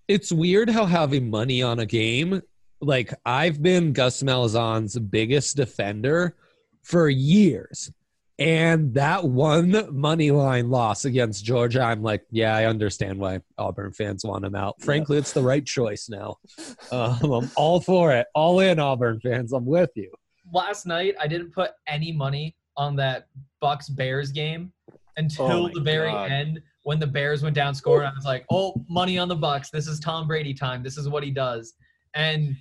It's weird how having money on a game, like I've been Gus Malzahn's biggest defender for years. And that one money line loss against Georgia, I'm like, yeah, I understand why Auburn fans want him out. Frankly, it's the right choice now. I'm all for it. All in, Auburn fans. I'm with you. Last night, I didn't put any money on that Bucks-Bears game until the very end when the Bears went down scoring. I was like, oh, money on the Bucks. This is Tom Brady time. This is what he does. And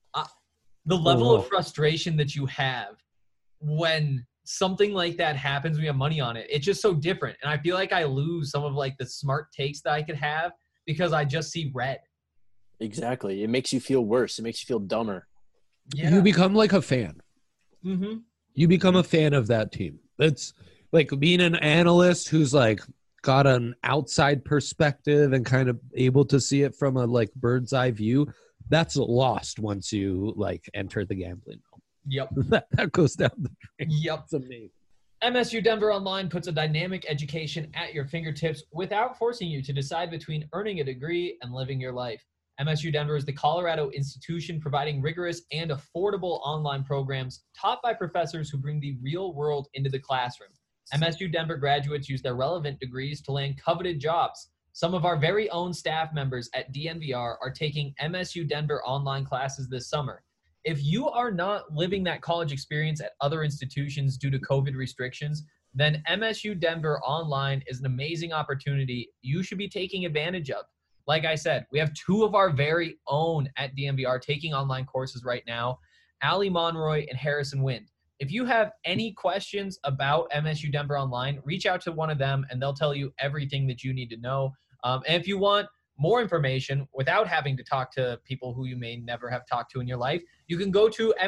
the level of frustration that you have when something like that happens, we have money on it. It's just so different. And I feel like I lose some of like the smart takes that I could have because I just see red. Exactly. It makes you feel worse. It makes you feel dumber. Yeah. You become like a fan. Mm-hmm. You become a fan of that team. It's like being an analyst who's like got an outside perspective and kind of able to see it from a like bird's eye view. That's lost once you like enter the gambling realm. Yep. that goes down the drain. Yep. It's amazing. MSU Denver Online puts a dynamic education at your fingertips without forcing you to decide between earning a degree and living your life. MSU Denver is the Colorado institution providing rigorous and affordable online programs taught by professors who bring the real world into the classroom. MSU Denver graduates use their relevant degrees to land coveted jobs. Some of our very own staff members at DNVR are taking MSU Denver online classes this summer. If you are not living that college experience at other institutions due to COVID restrictions, then MSU Denver Online is an amazing opportunity you should be taking advantage of. Like I said, we have two of our very own at DNVR taking online courses right now, Ali Monroy and Harrison Wind. If you have any questions about MSU Denver Online, reach out to one of them and they'll tell you everything that you need to know. And if you want more information without having to talk to people who you may never have talked to in your life, you can go to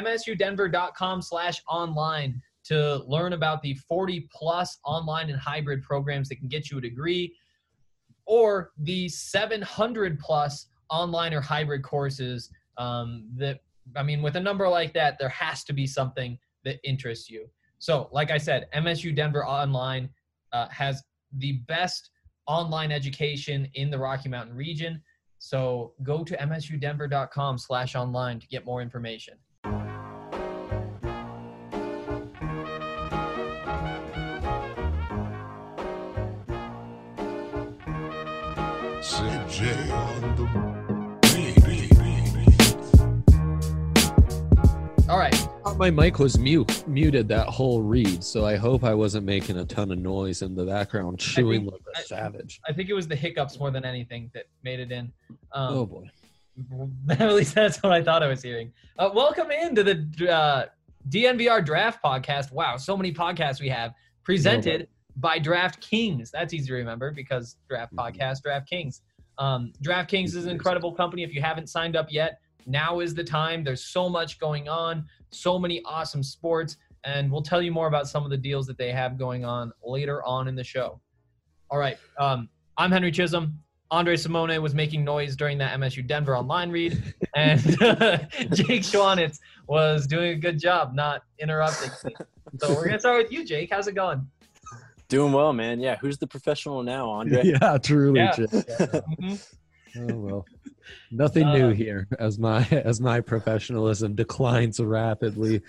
msudenver.com/online to learn about the 40-plus online and hybrid programs that can get you a degree, or the 700-plus online or hybrid courses with a number like that, there has to be something that interests you. So, like I said, MSU Denver Online has the best online education in the Rocky Mountain region. So go to msudenver.com/online to get more information. CJ on the All right. My mic was muted that whole read, so I hope I wasn't making a ton of noise in the background, chewing like a savage. I think it was the hiccups more than anything that made it in. Oh, boy. At least that's what I thought I was hearing. Welcome into the DNVR Draft Podcast. Wow, so many podcasts we have. Presented by DraftKings. That's easy to remember because Draft Podcast, DraftKings. DraftKings is an incredible company. If you haven't signed up yet, now is the time. There's so much going on, so many awesome sports, and we'll tell you more about some of the deals that they have going on later on in the show. All right. I'm Henry Chisholm. Andre Simone was making noise during that MSU Denver Online read, and Jake Schwanitz was doing a good job not interrupting me. So we're going to start with you, Jake. How's it going? Doing well, man. Yeah, who's the professional now, Andre? Yeah, truly. Yeah. Mm-hmm. Oh, well. Nothing new here as my professionalism declines rapidly.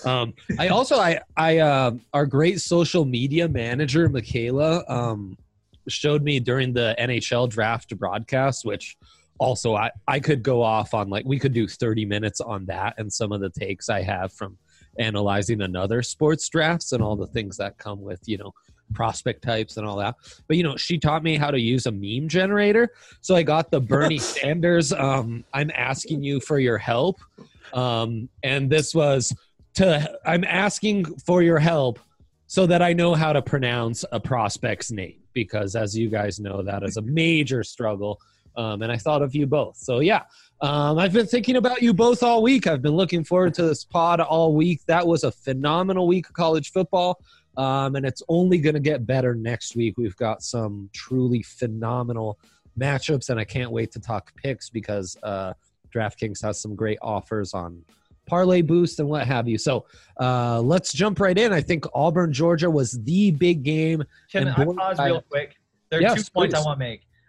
Our great social media manager, Michaela, showed me during the NHL draft broadcast, which also I could go off on, like, we could do 30 minutes on that and some of the takes I have from analyzing another sports drafts and all the things that come with, prospect types and all that. But, she taught me how to use a meme generator. So I got the Bernie Sanders, I'm asking you for your help. And this was I'm asking for your help so that I know how to pronounce a prospect's name, because as you guys know, that is a major struggle. And I thought of you both. So yeah, I've been thinking about you both all week. I've been looking forward to this pod all week. That was a phenomenal week of college football. And it's only going to get better next week. We've got some truly phenomenal matchups, and I can't wait to talk picks because DraftKings has some great offers on parlay boost and what have you. So let's jump right in. I think Auburn, Georgia was the big game. Can I pause real quick? There are 2 points I want to make.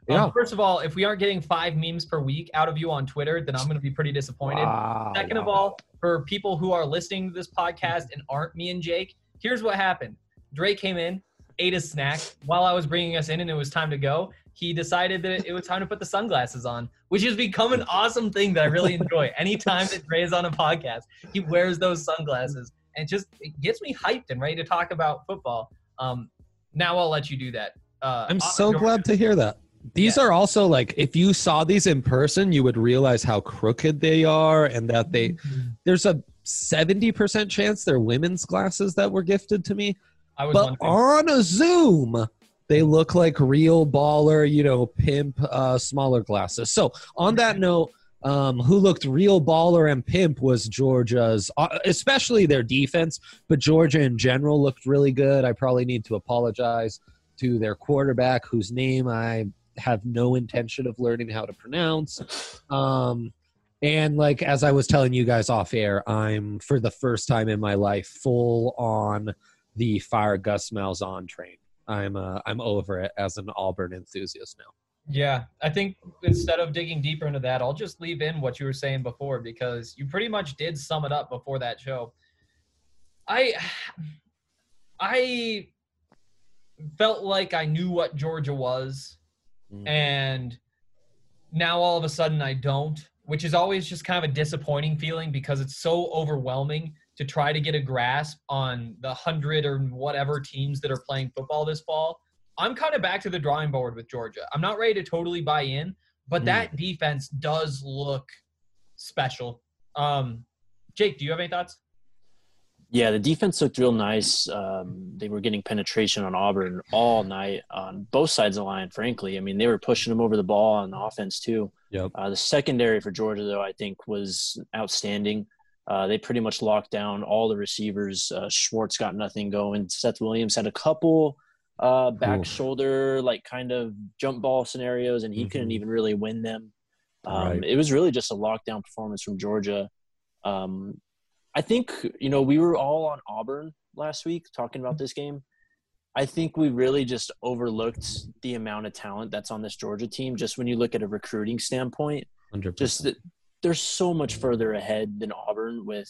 Yeah. First of all, if we aren't getting 5 memes per week out of you on Twitter, then I'm going to be pretty disappointed. Second of all, for people who are listening to this podcast and aren't me and Jake, here's what happened. Drake came in, ate a snack. While I was bringing us in and it was time to go, he decided that it was time to put the sunglasses on, which has become an awesome thing that I really enjoy. Anytime that Dre is on a podcast, he wears those sunglasses. And it gets me hyped and ready to talk about football. Now I'll let you do that. I'm so glad to hear that. These are also like, if you saw these in person, you would realize how crooked they are and that there's a 70% chance they're women's glasses that were gifted to me. But on a Zoom, they look like real baller, pimp, smaller glasses. So on that note, who looked real baller and pimp was Georgia's, especially their defense, but Georgia in general looked really good. I probably need to apologize to their quarterback, whose name I have no intention of learning how to pronounce. And like, as I was telling you guys off air, I'm, for the first time in my life, full on the fire Gus Malzahn train. I'm over it as an Auburn enthusiast now. Yeah, I think instead of digging deeper into that, I'll just leave in what you were saying before, because you pretty much did sum it up before that show. I felt like I knew what Georgia was, and now all of a sudden I don't, which is always just kind of a disappointing feeling because it's so overwhelming to try to get a grasp on the 100 or whatever teams that are playing football this fall. I'm kind of back to the drawing board with Georgia. I'm not ready to totally buy in, but that defense does look special. Jake, do you have any thoughts? Yeah, the defense looked real nice. They were getting penetration on Auburn all night on both sides of the line, frankly. I mean, they were pushing them over the ball on the offense too. Yep. The secondary for Georgia, though, I think was outstanding. They pretty much locked down all the receivers. Schwartz got nothing going. Seth Williams had a couple back shoulder, like kind of jump ball scenarios, and he couldn't even really win them. It was really just a lockdown performance from Georgia. I think, we were all on Auburn last week talking about this game. I think we really just overlooked the amount of talent that's on this Georgia team, just when you look at a recruiting standpoint. 100%. Just that they're so much further ahead than Auburn with,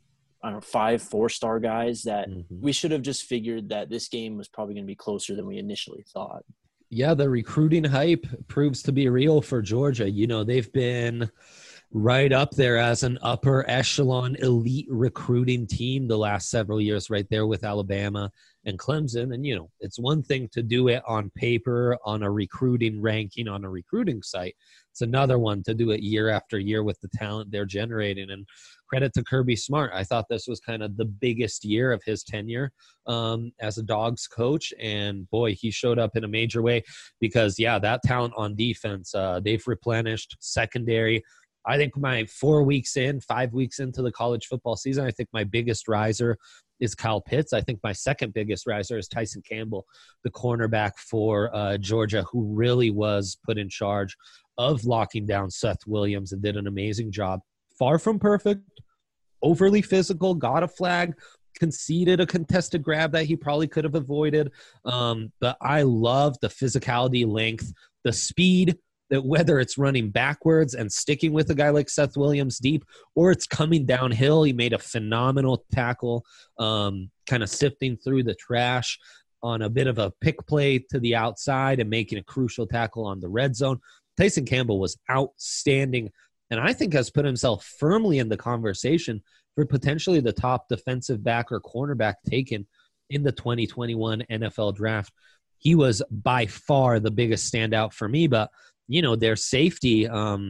5 4-star guys that we should have just figured that this game was probably going to be closer than we initially thought. Yeah, the recruiting hype proves to be real for Georgia. They've been right up there as an upper echelon elite recruiting team the last several years, right there with Alabama and Clemson. And, it's one thing to do it on paper, on a recruiting ranking, on a recruiting site. It's another one to do it year after year with the talent they're generating. And credit to Kirby Smart. I thought this was kind of the biggest year of his tenure as a Dogs coach. And boy, he showed up in a major way because, that talent on defense, they've replenished secondary. I think my 5 weeks into the college football season, I think my biggest riser is Kyle Pitts. I think my second biggest riser is Tyson Campbell, the cornerback for Georgia, who really was put in charge of locking down Seth Williams and did an amazing job. Far from perfect, overly physical, got a flag, conceded a contested grab that he probably could have avoided. But I love the physicality, length, the speed, that whether it's running backwards and sticking with a guy like Seth Williams deep, or it's coming downhill. He made a phenomenal tackle, kind of sifting through the trash on a bit of a pick play to the outside and making a crucial tackle on the red zone. Tyson Campbell was outstanding, and I think has put himself firmly in the conversation for potentially the top defensive back or cornerback taken in the 2021 NFL draft. He was by far the biggest standout for me, but their safety,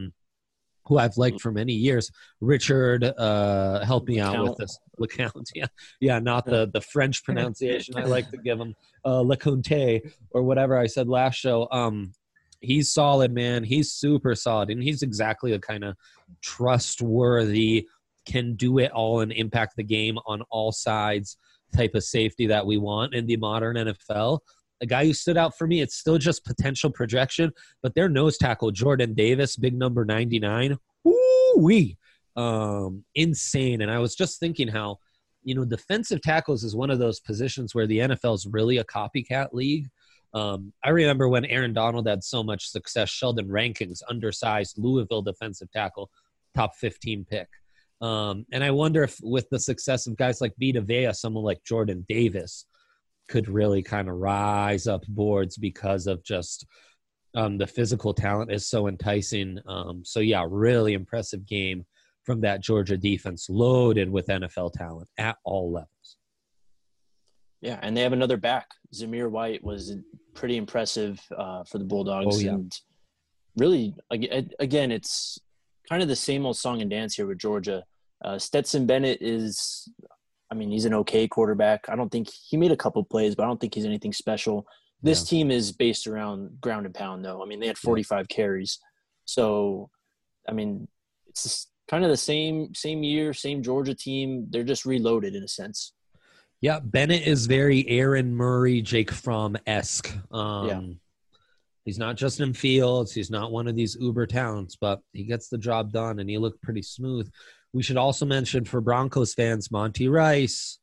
who I've liked for many years, Richard, help me out with this. LeCount, not the French pronunciation I like to give him, LeCounte, or whatever I said last show. He's solid, man. He's super solid, and he's exactly the kind of trustworthy, can do it all and impact the game on all sides type of safety that we want in the modern NFL. A guy who stood out for me, it's still just potential projection, but their nose tackle, Jordan Davis, big number 99, woo-wee, insane. And I was just thinking how, defensive tackles is one of those positions where the NFL is really a copycat league. I remember when Aaron Donald had so much success, Sheldon Rankins, undersized Louisville defensive tackle, top 15 pick. And I wonder if with the success of guys like Vita Vea, someone like Jordan Davis could really kind of rise up boards because of just the physical talent is so enticing. So, yeah, really impressive game from that Georgia defense, loaded with NFL talent at all levels. Yeah, and they have another back. Zamir White was pretty impressive for the Bulldogs. Oh, yeah. And really, again, it's kind of the same old song and dance here with Georgia. Stetson Bennett is, he's an okay quarterback. I don't think he made a couple plays, but I don't think he's anything special. This team is based around ground and pound, though. They had 45 carries. So, it's kind of the same year, same Georgia team. They're just reloaded in a sense. Yeah, Bennett is very Aaron Murray, Jake Fromm-esque. He's not Justin Fields. He's not one of these uber talents, but he gets the job done, and he looked pretty smooth. We should also mention for Broncos fans, Monty Rice,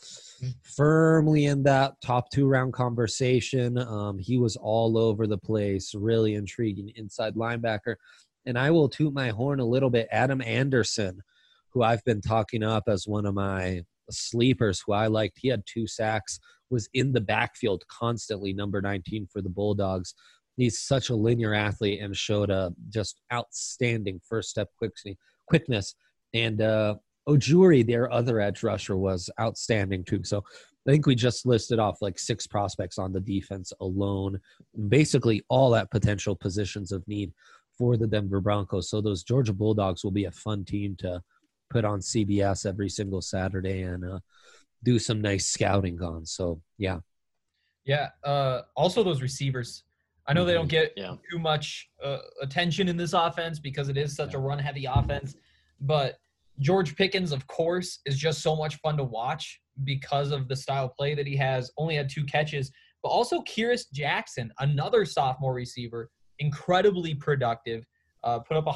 firmly in that top 2-round conversation. He was all over the place, really intriguing inside linebacker. And I will toot my horn a little bit. Adam Anderson, who I've been talking up as one of my sleepers who I liked. He had 2 sacks, was in the backfield constantly, number 19 for the Bulldogs. He's such a linear athlete and showed a just outstanding first step quickness. And Ojuri, their other edge rusher, was outstanding too. So I think we just listed off like 6 prospects on the defense alone, basically all at potential positions of need for the Denver Broncos. So those Georgia Bulldogs will be a fun team to put on CBS every single Saturday and do some nice scouting on. So, yeah. Yeah. Also, those receivers. I know they don't get too much attention in this offense because it is such a run-heavy offense. But George Pickens, of course, is just so much fun to watch because of the style of play that he has. Only had 2 catches. But also Kyrus Jackson, another sophomore receiver, incredibly productive, put up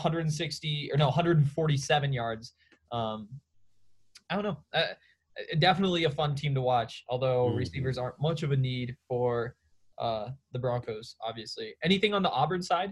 147 yards. I don't know. Definitely a fun team to watch, although receivers aren't much of a need for the Broncos, obviously. Anything on the Auburn side?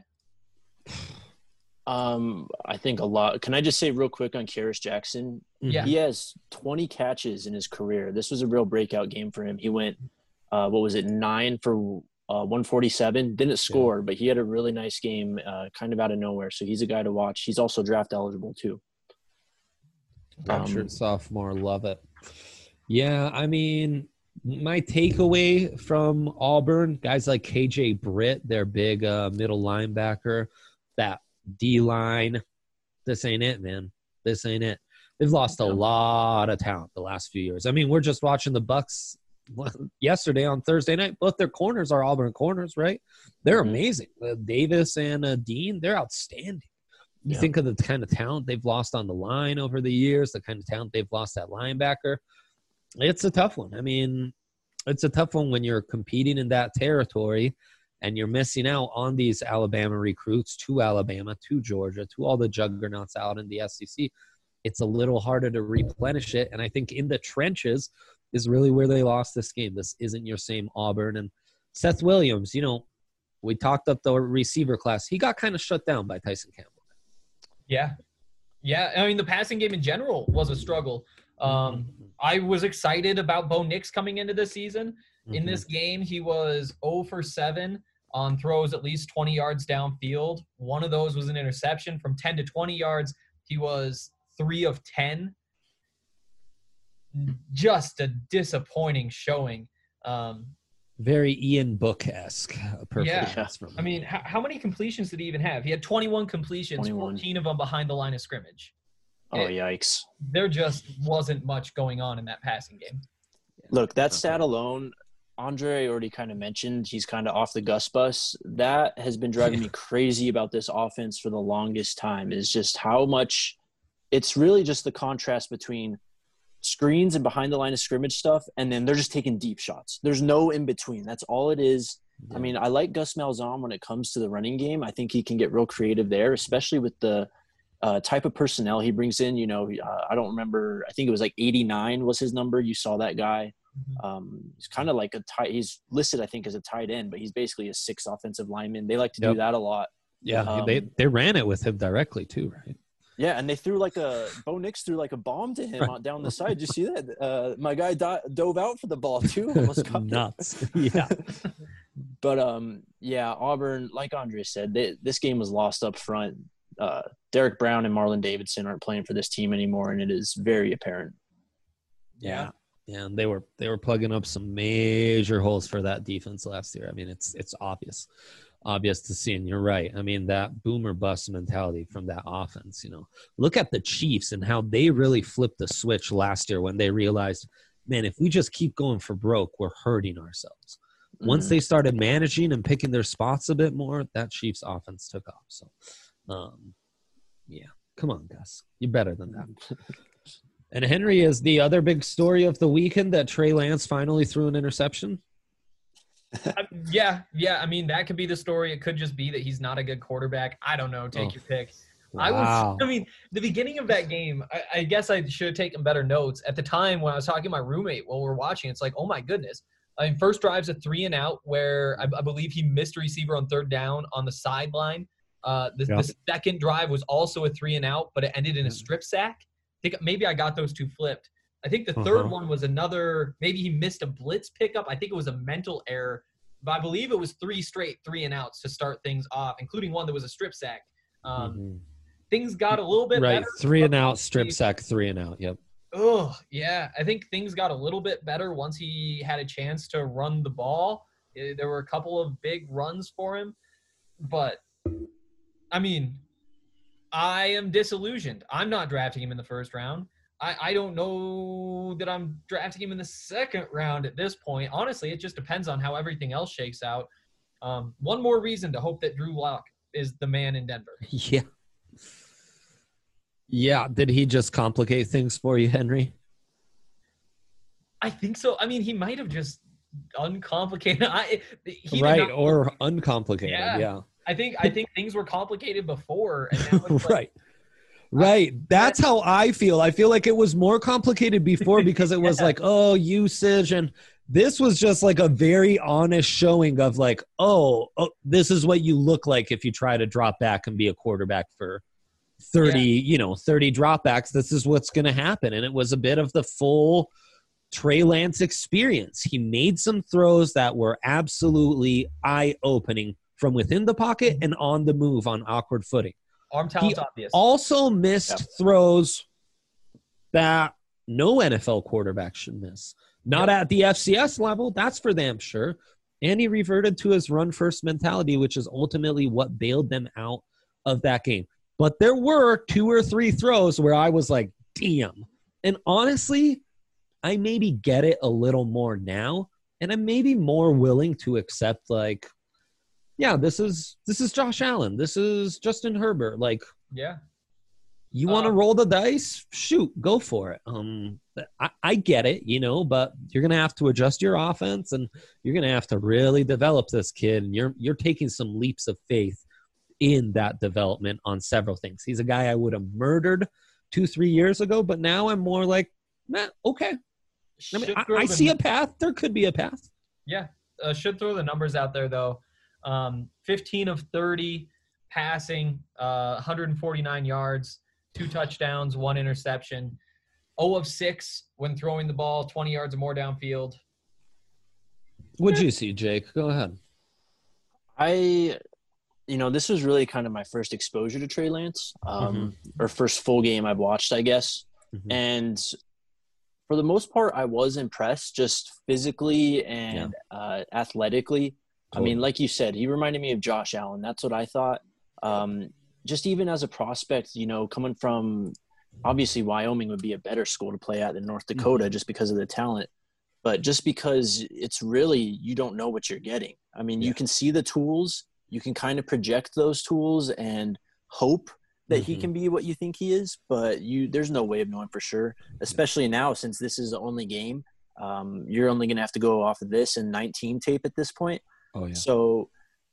I think a lot. Can I just say real quick on Kyrus Jackson? Yeah. He has 20 catches in his career. This was a real breakout game for him. He went, 9 for 147. Didn't score, but he had a really nice game kind of out of nowhere. So he's a guy to watch. He's also draft eligible too. Redshirt sophomore, love it. Yeah, my takeaway from Auburn, guys like KJ Britt, their big middle linebacker, that D-line, this ain't it, man. This ain't it. They've lost a lot of talent the last few years. We're just watching the Bucks yesterday on Thursday night. Both their corners are Auburn corners, right? They're amazing. Davis and Dean, they're outstanding. You think of the kind of talent they've lost on the line over the years, the kind of talent they've lost at linebacker. It's a tough one. It's a tough one when you're competing in that territory and you're missing out on these Alabama recruits to Alabama, to Georgia, to all the juggernauts out in the SEC. It's a little harder to replenish it. And I think in the trenches is really where they lost this game. This isn't your same Auburn. And Seth Williams, we talked up the receiver class. He got kind of shut down by Tyson Campbell. Yeah. The passing game in general was a struggle. I was excited about Bo Nix coming into the season. In this game, he was 0 for 7 on throws at least 20 yards downfield. One of those was an interception. From 10 to 20 yards, he was 3 of 10. Just a disappointing showing. Very Ian Book-esque. How many completions did he even have? He had 21 completions, 14 of them behind the line of scrimmage. Yikes. There just wasn't much going on in that passing game. Look, that stat alone, Andre already kind of mentioned he's kind of off the Gus bus. That has been driving me crazy about this offense for the longest time, is just how much – it's really just the contrast between screens and behind the line of scrimmage stuff, and then they're just taking deep shots. There's no in-between. That's all it is. Yeah. I like Gus Malzahn when it comes to the running game. I think he can get real creative there, especially with the type of personnel he brings in. I don't remember. I think it was like 89 was his number. You saw that guy He's kind of like he's listed, I think, as a tight end, but he's basically a 6th offensive lineman. They like to do that a lot. Yeah, they ran it with him directly too, right? Yeah, and they threw Bo Nix threw like a bomb to him down the side. Did you see that? My guy dove out for the ball too. Almost got nuts. Yeah. But Auburn, like Andre said, this game was lost up front. Derek Brown and Marlon Davidson aren't playing for this team anymore, and it is very apparent. Yeah, and they were plugging up some major holes for that defense last year. I mean, it's obvious to see, and you're right. I mean, that boom or bust mentality from that offense, look at the Chiefs and how they really flipped the switch last year when they realized, man, if we just keep going for broke, we're hurting ourselves. Once they started managing and picking their spots a bit more, that Chiefs offense took off. So, come on, Gus. You're better than that. And Henry, is the other big story of the weekend that Trey Lance finally threw an interception? Yeah. I mean, that could be the story. It could just be that he's not a good quarterback. I don't know. Take your pick. Wow. The beginning of that game, I guess I should have taken better notes. At the time when I was talking to my roommate while we were watching, it's like, oh my goodness. I mean, first drive's a 3-and-out where I believe he missed a receiver on 3rd down on the sideline. The second drive was also a 3-and-out, but it ended in a strip sack. I think maybe I got those two flipped. I think the third one was maybe he missed a blitz pickup. I think it was a mental error, but I believe it was 3 straight 3-and-outs to start things off, including one that was a strip sack. Things got a little bit better. 3-and-out, strip sack, 3-and-out. Yep. Oh, yeah. I think things got a little bit better once he had a chance to run the ball. There were a couple of big runs for him. But, I mean, I am disillusioned. I'm not drafting him in the 1st round. I don't know that I'm drafting him in the 2nd round at this point. Honestly, it just depends on how everything else shakes out. One more reason to hope that Drew Lock is the man in Denver. Yeah. Yeah. Did he just complicate things for you, Henry? I think so. I mean, he might have just uncomplicated. Or uncomplicated. Yeah. I think things were complicated before, and now it's right. Right. That's how I feel. I feel like it was more complicated before because it was like, usage. And this was just like a very honest showing of like, this is what you look like if you try to drop back and be a quarterback for 30 dropbacks. This is what's going to happen. And it was a bit of the full Trey Lance experience. He made some throws that were absolutely eye-opening from within the pocket and on the move on awkward footing. Arm talent's obvious. Also missed throws that no NFL quarterback should miss. Not at the FCS level, that's for damn sure. And he reverted to his run-first mentality, which is ultimately what bailed them out of that game. But there were 2 or 3 throws where I was like, damn. And honestly, I maybe get it a little more now, and I'm maybe more willing to accept like, yeah, this is Josh Allen. This is Justin Herbert. Like, you want to roll the dice? Shoot, go for it. I get it, but you're going to have to adjust your offense, and you're going to have to really develop this kid. And you're taking some leaps of faith in that development on several things. He's a guy I would have murdered 2-3 years ago, but now I'm more like, okay. I see a path. There could be a path. Yeah, should throw the numbers out there though. 15 of 30 passing, 149 yards, 2 touchdowns, 1 interception, 0 of 6 when throwing the ball, 20 yards or more downfield. What'd you see, Jake? Go ahead. This was really kind of my first exposure to Trey Lance, or first full game I've watched, I guess. And for the most part, I was impressed just physically and athletically. Totally. I mean, like you said, he reminded me of Josh Allen. That's what I thought. Just even as a prospect, coming from obviously Wyoming would be a better school to play at than North Dakota just because of the talent. But just because it's really, you don't know what you're getting. I mean, you can see the tools. You can kind of project those tools and hope that he can be what you think he is. But there's no way of knowing for sure, especially now since this is the only game. You're only going to have to go off of this and 19 tape at this point. Oh, yeah. So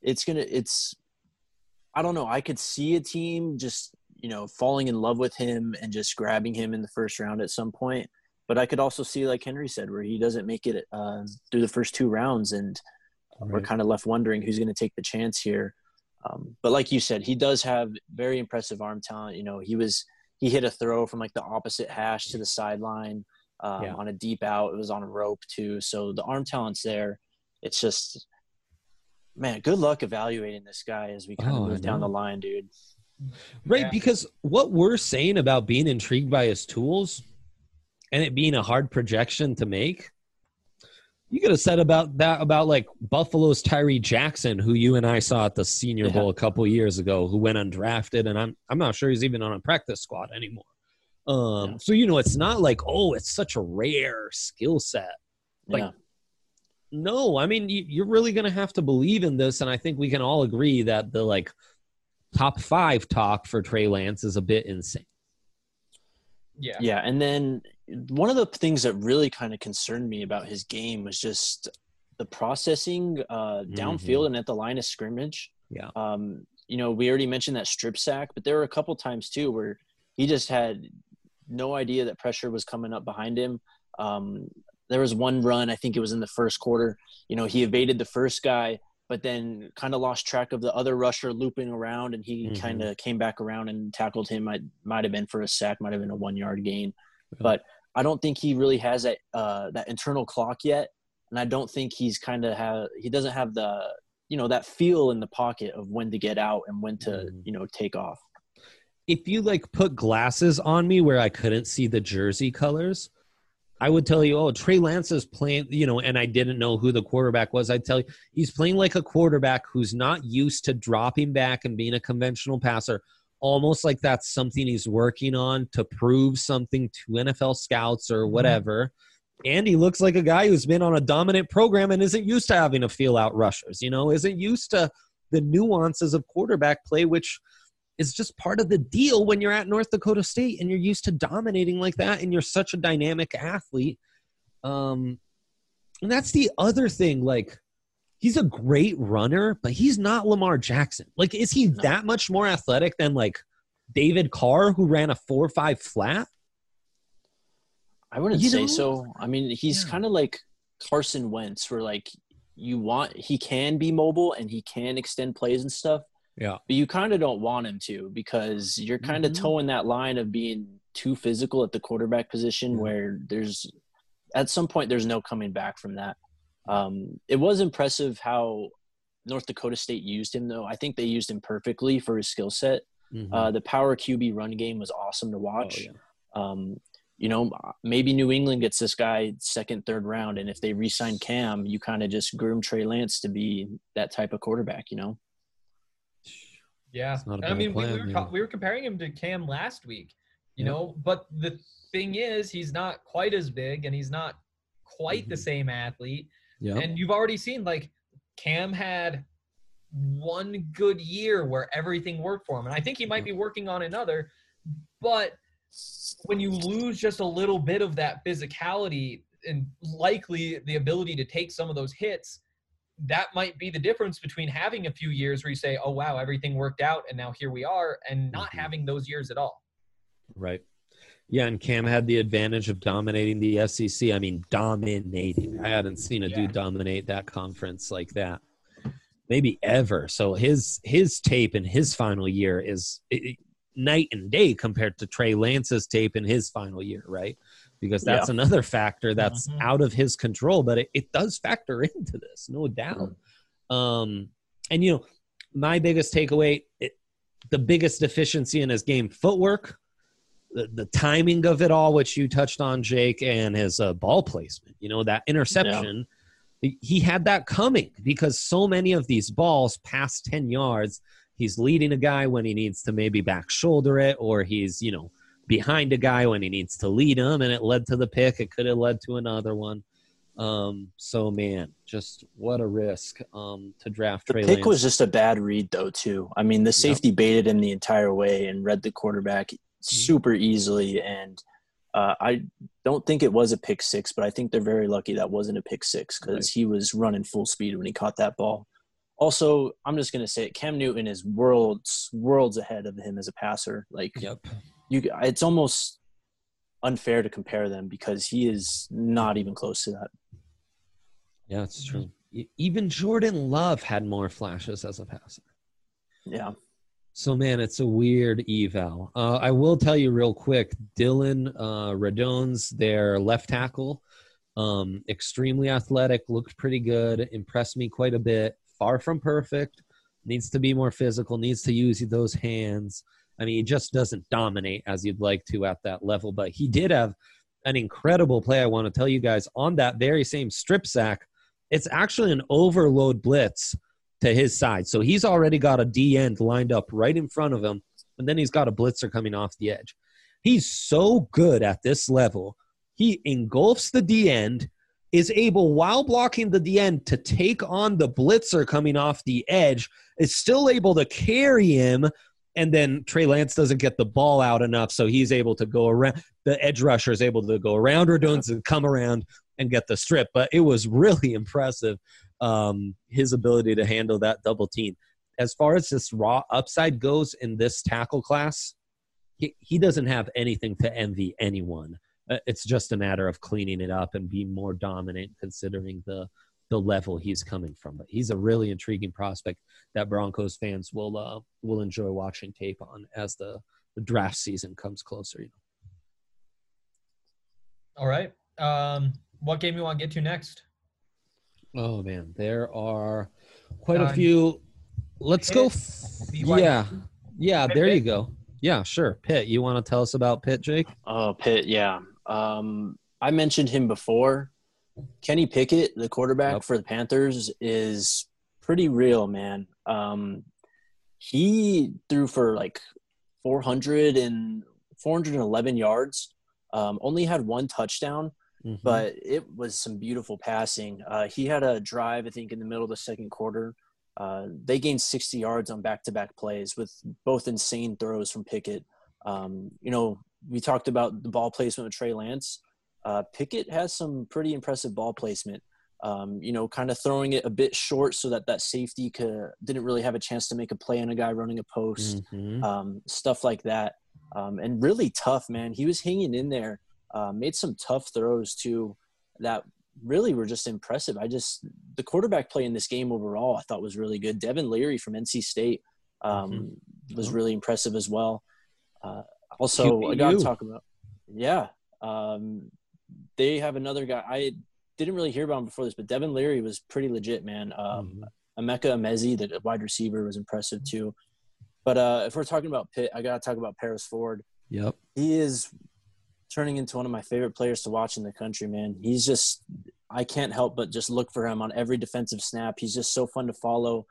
I don't know. I could see a team just, falling in love with him and just grabbing him in the first round at some point. But I could also see, like Henry said, where he doesn't make it through the first 2 rounds, and we're kind of left wondering who's going to take the chance here. But like you said, he does have very impressive arm talent. You know, he hit a throw from like the opposite hash to the sideline on a deep out. It was on a rope too. So the arm talent's there. It's just, man, good luck evaluating this guy as we kind of move down the line, dude. Right, because what we're saying about being intrigued by his tools and it being a hard projection to make, you could have said about like Buffalo's Tyree Jackson, who you and I saw at the Senior Bowl a couple years ago, who went undrafted, and I'm not sure he's even on a practice squad anymore. So you know, it's not like, oh, it's such a rare skill set. Like, no, I mean, you're really going to have to believe in this, and I think we can all agree that the like top 5 talk for Trey Lance is a bit insane. Yeah, and then one of the things that really kind of concerned me about his game was just the processing downfield and at the line of scrimmage. Yeah. You know, we already mentioned that strip sack, but there were a couple times too where he just had no idea that pressure was coming up behind him. There was one run, I think it was in the first quarter, you know, he evaded the first guy, but then kind of lost track of the other rusher looping around, and he kind of came back around and tackled him. Might have been for a sack, might have been a 1-yard gain. But I don't think he really has that internal clock yet, and I don't think he doesn't have the, you know, that feel in the pocket of when to get out and when to, you know, take off. If you like put glasses on me where I couldn't see the jersey colors, I would tell you, oh, Trey Lance is playing, you know, and I didn't know who the quarterback was. I'd tell you, he's playing like a quarterback who's not used to dropping back and being a conventional passer, almost like that's something he's working on to prove something to NFL scouts or whatever. And he looks like a guy who's been on a dominant program and isn't used to having to feel out rushers, you know, isn't used to the nuances of quarterback play, which is just part of the deal when you're at North Dakota State and you're used to dominating like that and you're such a dynamic athlete. And that's the other thing. Like, he's a great runner, but he's not Lamar Jackson. Like, is he that much more athletic than like David Carr, who ran a 4.5 flat? I wouldn't say so. I mean, he's kind of like Carson Wentz, where like he can be mobile and he can extend plays and stuff. Yeah. But you kind of don't want him to, because you're kind of towing that line of being too physical at the quarterback position where at some point there's no coming back from that. It was impressive how North Dakota State used him, though. I think they used him perfectly for his skill set. The power QB run game was awesome to watch. You know, maybe New England gets this guy 2nd, 3rd round, and if they re-sign Cam, you kind of just groom Trey Lance to be that type of quarterback, you know? Yeah, I mean, we were comparing him to Cam last week, you know, but the thing is, he's not quite as big and he's not quite the same athlete. Yeah. And you've already seen, like, Cam had one good year where everything worked for him, and I think he might be working on another. But when you lose just a little bit of that physicality and likely the ability to take some of those hits, that might be the difference between having a few years where you say, oh, wow, everything worked out and now here we are, and not having those years at all. Right. Yeah, and Cam had the advantage of dominating the SEC. I mean, dominating. I hadn't seen a dude dominate that conference like that, maybe ever. So his tape in his final year is night and day compared to Trey Lance's tape in his final year, right? Because that's another factor that's out of his control, but it does factor into this, no doubt. And, you know, my biggest takeaway, the biggest deficiency in his game, footwork, the timing of it all, which you touched on, Jake, and his ball placement, you know, that interception, he had that coming because so many of these balls past 10 yards, he's leading a guy when he needs to maybe back shoulder it, or he's, you know, behind a guy when he needs to lead him, and it led to the pick. It could have led to another one. So, man, just what a risk to draft Trey Lance. The pick was just a bad read, though, too. I mean, the safety baited him the entire way and read the quarterback super easily, and I don't think it was a pick six, but I think they're very lucky that wasn't a pick six because he was running full speed when he caught that ball. Also, I'm just going to say it, Cam Newton is worlds ahead of him as a passer. Like, it's almost unfair to compare them because he is not even close to that. Yeah, it's true. Even Jordan Love had more flashes as a passer. Yeah. So, man, it's a weird eval. I will tell you real quick, Dylan Radone's their left tackle, extremely athletic, looked pretty good, impressed me quite a bit. Far from perfect, needs to be more physical, needs to use those hands. I mean, he just doesn't dominate as you'd like to at that level, but he did have an incredible play I want to tell you guys on that very same strip sack. It's actually an overload blitz to his side. So he's already got a D end lined up right in front of him, and then he's got a blitzer coming off the edge. He's so good at this level. He engulfs the D end, is able, while blocking the D end, to take on the blitzer coming off the edge, is still able to carry him, and then Trey Lance doesn't get the ball out enough, so he's able to go around. The edge rusher is able to go around Radones and come around and get the strip. But it was really impressive, his ability to handle that double team. As far as this raw upside goes in this tackle class, he doesn't have anything to envy anyone. It's just a matter of cleaning it up and being more dominant considering the level he's coming from. But he's a really intriguing prospect that Broncos fans will enjoy watching tape on as the draft season comes closer. All right. What game you want to get to next? Oh, man. There are quite a few. Let's Pitt, go. BYU. Yeah, there you go. Yeah, sure. Pitt, you want to tell us about Pitt, Jake? Oh, Pitt, yeah. I mentioned him before. Kenny Pickett, the quarterback for the Panthers, is pretty real, man. He threw for like 411 yards, only had one touchdown, but it was some beautiful passing. He had a drive, I think, in the middle of the second quarter. They gained 60 yards on back-to-back plays with both insane throws from Pickett. We talked about the ball placement with Trey Lance. Pickett has some pretty impressive ball placement, kind of throwing it a bit short so that safety didn't really have a chance to make a play on a guy running a post, stuff like that. And really tough, man. He was hanging in there, made some tough throws too that really were just impressive. The quarterback play in this game overall I thought was really good. Devin Leary from NC State was really impressive as well. Also, QBU. I got to talk about, they have another guy. I didn't really hear about him before this, but Devin Leary was pretty legit, man. Emeka Emezi, the wide receiver, was impressive too. But if we're talking about Pitt, I got to talk about Paris Ford. Yep. He is turning into one of my favorite players to watch in the country, man. He's just – I can't help but just look for him on every defensive snap. He's just so fun to follow.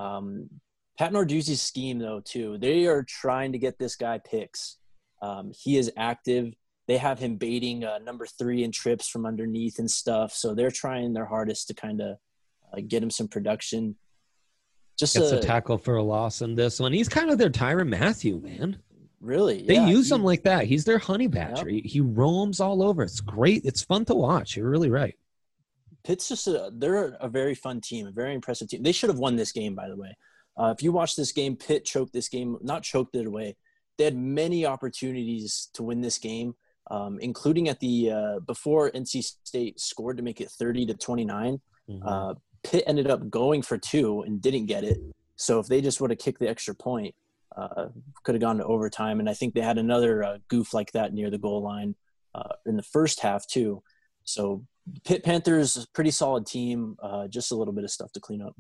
Pat Narduzzi's scheme, though, too. They are trying to get this guy picks. He is active. They have him baiting number 3 in trips from underneath and stuff. So they're trying their hardest to kind of get him some production. Gets a tackle for a loss in this one. He's kind of their Tyrann Mathieu, man. Really? They use him like that. He's their honey badger. Yep. He roams all over. It's great. It's fun to watch. You're really right. Pitt's they're a very fun team, a very impressive team. They should have won this game, by the way. If you watch this game, Pitt choked this game, not choked it away. They had many opportunities to win this game, including at the before NC State scored to make it 30-29. Pitt ended up going for 2 and didn't get it. So if they just would have kicked the extra point, could have gone to overtime. And I think they had another goof like that near the goal line in the first half too. So Pitt Panthers, pretty solid team, just a little bit of stuff to clean up.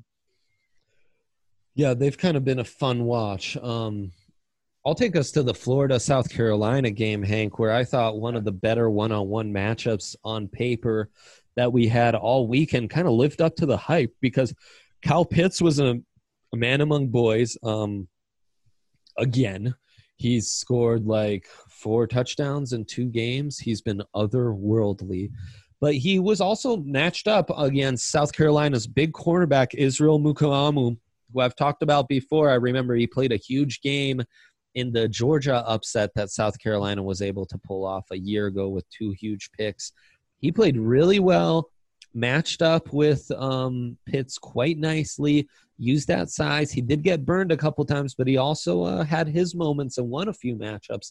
Yeah, they've kind of been a fun watch. I'll take us to the Florida-South Carolina game, Hank, where I thought one of the better one-on-one matchups on paper that we had all weekend kind of lived up to the hype because Kyle Pitts was a man among boys. Again, he's scored like 4 touchdowns in 2 games. He's been otherworldly. But he was also matched up against South Carolina's big cornerback, Israel Mukuamu, who I've talked about before. I remember he played a huge game in the Georgia upset that South Carolina was able to pull off a year ago with 2 huge picks. He played really well, matched up with Pitts quite nicely, used that size. He did get burned a couple times, but he also had his moments and won a few matchups.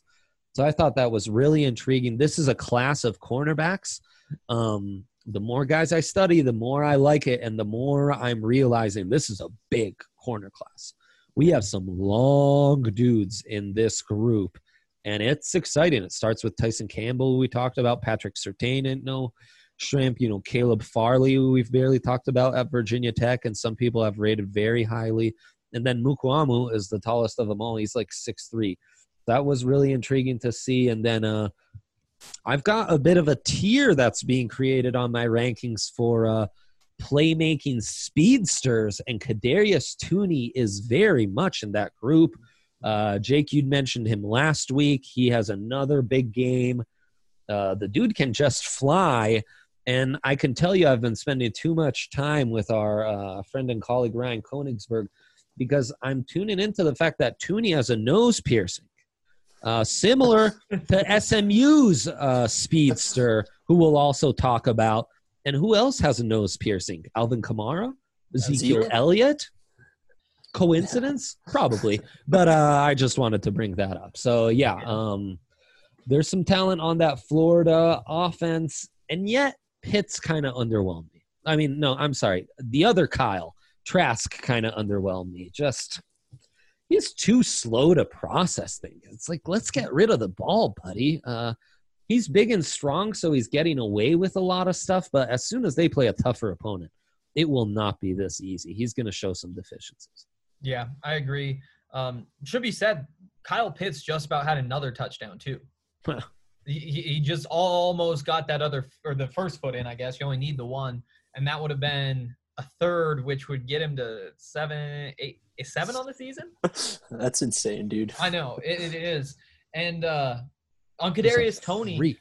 So I thought that was really intriguing. This is a class of cornerbacks. The more guys I study, the more I like it, and the more I'm realizing this is a big corner class. We have some long dudes in this group, and it's exciting. It starts with Tyson Campbell, who we talked about, Patrick Surtain, no shrimp, Caleb Farley, who we've barely talked about at Virginia Tech, and some people have rated very highly. And then Mukuamu is the tallest of them all. He's like 6'3". That was really intriguing to see. And then I've got a bit of a tier that's being created on my rankings for playmaking speedsters, and Kadarius Toney is very much in that group. Jake, you'd mentioned him last week. He has another big game. The dude can just fly, and I can tell you I've been spending too much time with our friend and colleague Ryan Konigsberg, because I'm tuning into the fact that Toney has a nose piercing. Similar to SMU's speedster, who we'll also talk about. And who else has a nose piercing? Alvin Kamara? Ezekiel Elliott? Coincidence? Probably. But I just wanted to bring that up. So, there's some talent on that Florida offense, and yet Pitts kind of underwhelmed me. I mean, no, I'm sorry. The other Kyle, Trask, kind of underwhelmed me. He's too slow to process things. It's like, let's get rid of the ball, buddy. He's big and strong, so he's getting away with a lot of stuff. But as soon as they play a tougher opponent, it will not be this easy. He's going to show some deficiencies. Yeah, I agree. Should be said, Kyle Pitts just about had another touchdown too. He just almost got that the first foot in, I guess. You only need the one, and that would have been a third, which would get him to 7 on the season. That's insane, dude. I know it is. And on Kadarius Toney,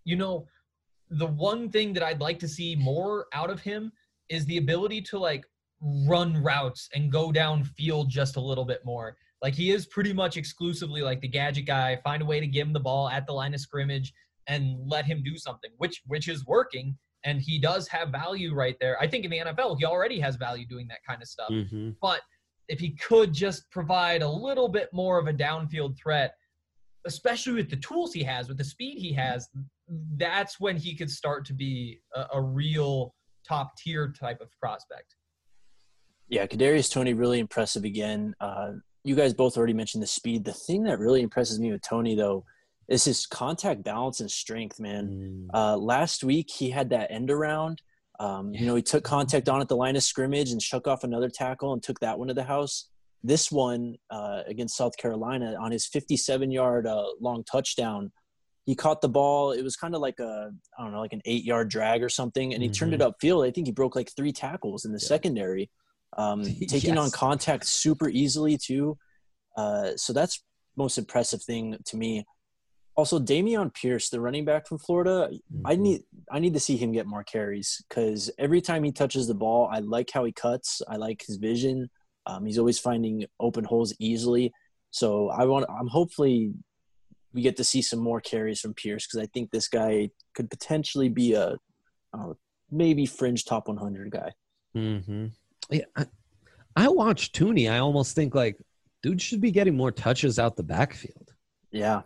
the one thing that I'd like to see more out of him is the ability to like run routes and go downfield just a little bit more. Like, he is pretty much exclusively like the gadget guy. Find a way to give him the ball at the line of scrimmage and let him do something, which is working. And he does have value right there. I think in the NFL, he already has value doing that kind of stuff. Mm-hmm. But if he could just provide a little bit more of a downfield threat, especially with the tools he has, with the speed he has, that's when he could start to be a real top-tier type of prospect. Yeah, Kadarius Toney, really impressive again. You guys both already mentioned the speed. The thing that really impresses me with Toney, though, is his contact balance and strength, man. Last week, he had that end around. He took contact on at the line of scrimmage and shook off another tackle and took that one to the house. This one against South Carolina, on his 57-yard long touchdown, he caught the ball. It was kind of like an 8-yard drag or something, and he turned it upfield. I think he broke like 3 tackles in the secondary, taking on contact super easily too. So that's most impressive thing to me. Also, Dameon Pierce, the running back from Florida, I need to see him get more carries, because every time he touches the ball, I like how he cuts. I like his vision. He's always finding open holes easily. So I'm hopefully we get to see some more carries from Pierce, because I think this guy could potentially be a maybe fringe top 100 guy. Mm-hmm. Yeah, I watched Toney. I almost think like, dude should be getting more touches out the backfield. Yeah.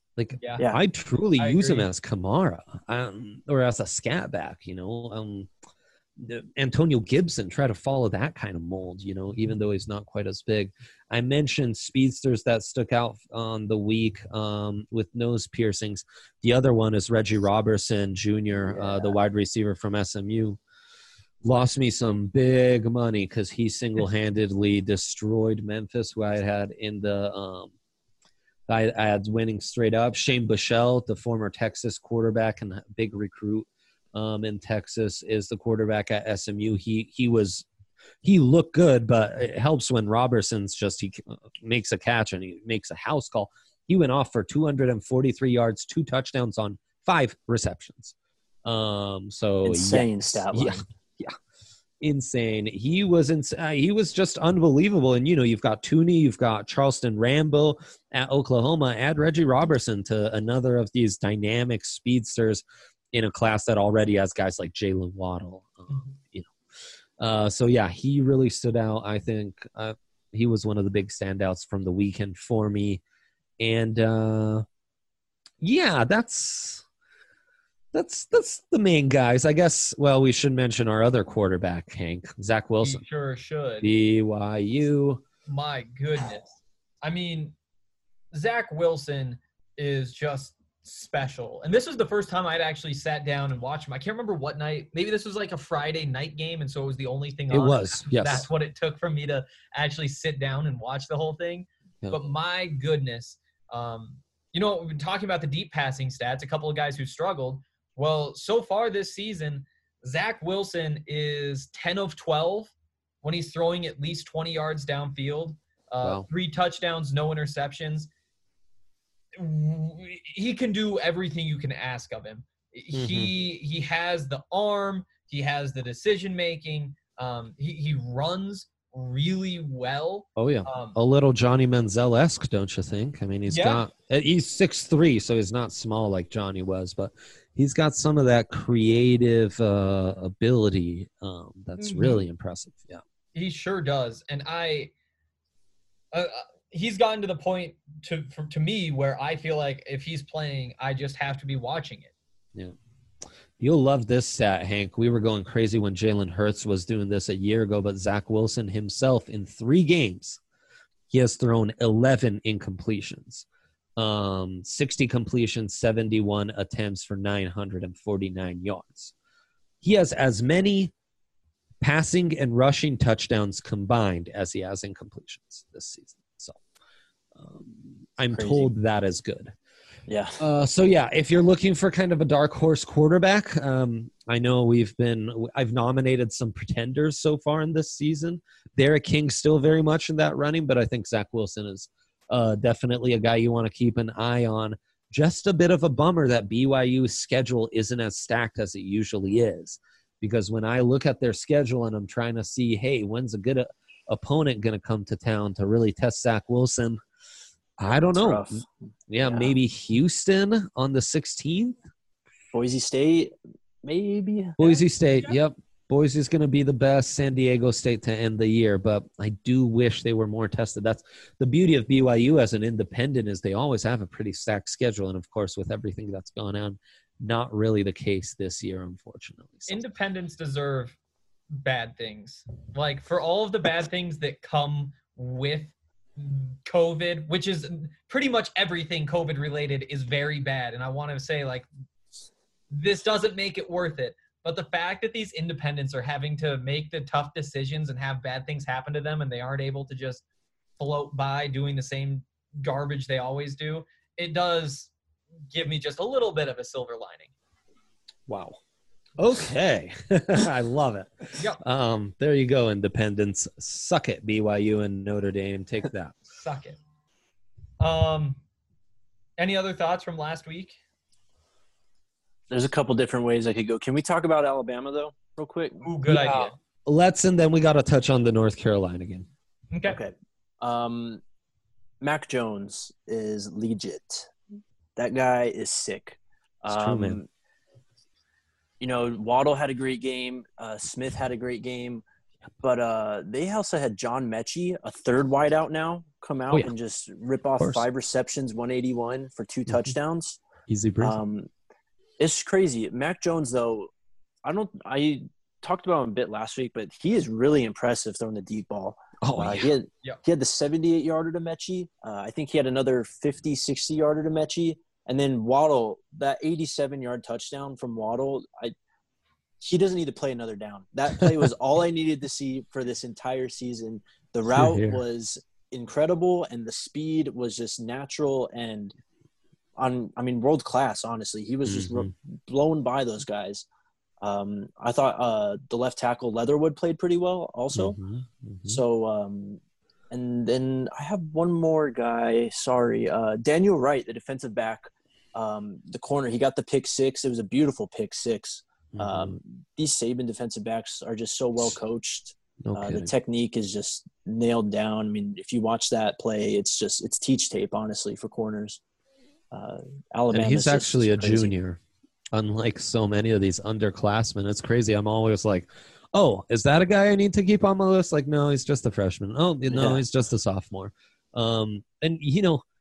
I truly use agree. him as Kamara or as a scat back, Antonio Gibson, try to follow that kind of mold, even though he's not quite as big. I mentioned speedsters that stuck out on the week with nose piercings. The other one is Reggie Robertson Jr., the wide receiver from SMU. Lost me some big money because he single-handedly destroyed Memphis, who I had in the I had winning straight up. Shane Buechele, the former Texas quarterback and big recruit in Texas, is the quarterback at SMU. He looked good, but it helps when Robertson's he makes a catch and he makes a house call. He went off for 243 yards, 2 touchdowns on 5 receptions. So insane stat line. Yeah. Insane. He was just unbelievable. And you've got Toney, you've got Charleston Rambo at Oklahoma. Add Reggie Robertson to another of these dynamic speedsters in a class that already has guys like Jalen Waddle. He really stood out. I think he was one of the big standouts from the weekend for me. And Yeah, that's the main guys. I guess, well, we should mention our other quarterback, Hank, Zach Wilson. He sure should. BYU. My goodness. I mean, Zach Wilson is just special. And this was the first time I'd actually sat down and watched him. I can't remember what night. Maybe this was like a Friday night game, and so it was the only thing on. It was, yes. That's what it took for me to actually sit down and watch the whole thing. Yeah. But my goodness, you know, we've been talking about the deep passing stats, a couple of guys who struggled. Well, so far this season, Zach Wilson is 10 of 12 when he's throwing at least 20 yards downfield. Wow. 3 touchdowns, no interceptions. He can do everything you can ask of him. He has the arm. He has the decision making. He runs really well. Oh yeah, a little Johnny Manziel-esque, don't you think? I mean, he's 6'3", so he's not small like Johnny was, but he's got some of that creative ability that's really impressive. Yeah, he sure does. And he's gotten to the point to me where I feel like if he's playing, I just have to be watching it. Yeah. You'll love this stat, Hank. We were going crazy when Jalen Hurts was doing this a year ago, but Zach Wilson himself in 3 games, he has thrown 11 incompletions, 60 completions, 71 attempts for 949 yards. He has as many passing and rushing touchdowns combined as he has incompletions this season. So I'm told that is good. Yeah. So yeah, if you're looking for kind of a dark horse quarterback, I know I've nominated some pretenders so far in this season. Derek King's still very much in that running, but I think Zach Wilson is definitely a guy you want to keep an eye on. Just a bit of a bummer that BYU's schedule isn't as stacked as it usually is, because when I look at their schedule and I'm trying to see, hey, when's a good opponent going to come to town to really test Zach Wilson? I don't know. Yeah, maybe Houston on the 16th. Boise State, maybe. Boise State, yep. Boise's going to be the best. San Diego State to end the year, but I do wish they were more tested. That's the beauty of BYU as an independent, is they always have a pretty stacked schedule. And, of course, with everything that's gone on, not really the case this year, unfortunately. So. Independents deserve bad things. Like, for all of the bad things that come with COVID, which is pretty much everything COVID related is very bad. And I want to say, like, this doesn't make it worth it. But the fact that these independents are having to make the tough decisions and have bad things happen to them and they aren't able to just float by doing the same garbage they always do, it does give me just a little bit of a silver lining. Wow. Okay. I love it. Yep. There you go, independents. Suck it, BYU and Notre Dame. Take that. Suck it. Any other thoughts from last week? There's a couple different ways I could go. Can we talk about Alabama, though, real quick? Ooh, good idea. Let's, and then we got to touch on the North Carolina game. Okay. Mac Jones is legit. That guy is sick. It's true, man. You know, Waddle had a great game. Smith had a great game. But they also had John Mechie, a third wideout now, come out and just rip off 5 receptions, 181 for 2 touchdowns. Easy breezy. It's crazy. Mac Jones, though, I talked about him a bit last week, but he is really impressive throwing the deep ball. He had the 78-yarder to Mechie. I think he had another 50, 60-yarder to Mechie. And then Waddle, that 87-yard touchdown from Waddle, he doesn't need to play another down. That play was all I needed to see for this entire season. The route was incredible, and the speed was just natural and, world class, honestly. He was just blown by those guys. I thought the left tackle Leatherwood played pretty well also. So, and then I have one more guy. Sorry. Daniel Wright, the defensive back, the corner, he got the pick 6. It was a beautiful pick 6. These Saban defensive backs are just so well coached. The technique is just nailed down. I mean, if you watch that play, it's teach tape, honestly, for corners. Alabama. And he's actually a junior, unlike so many of these underclassmen. It's crazy. I'm always like, oh, is that a guy I need to keep on my list? Like, no, he's just a freshman. Oh, no, he's just a sophomore. And, you know,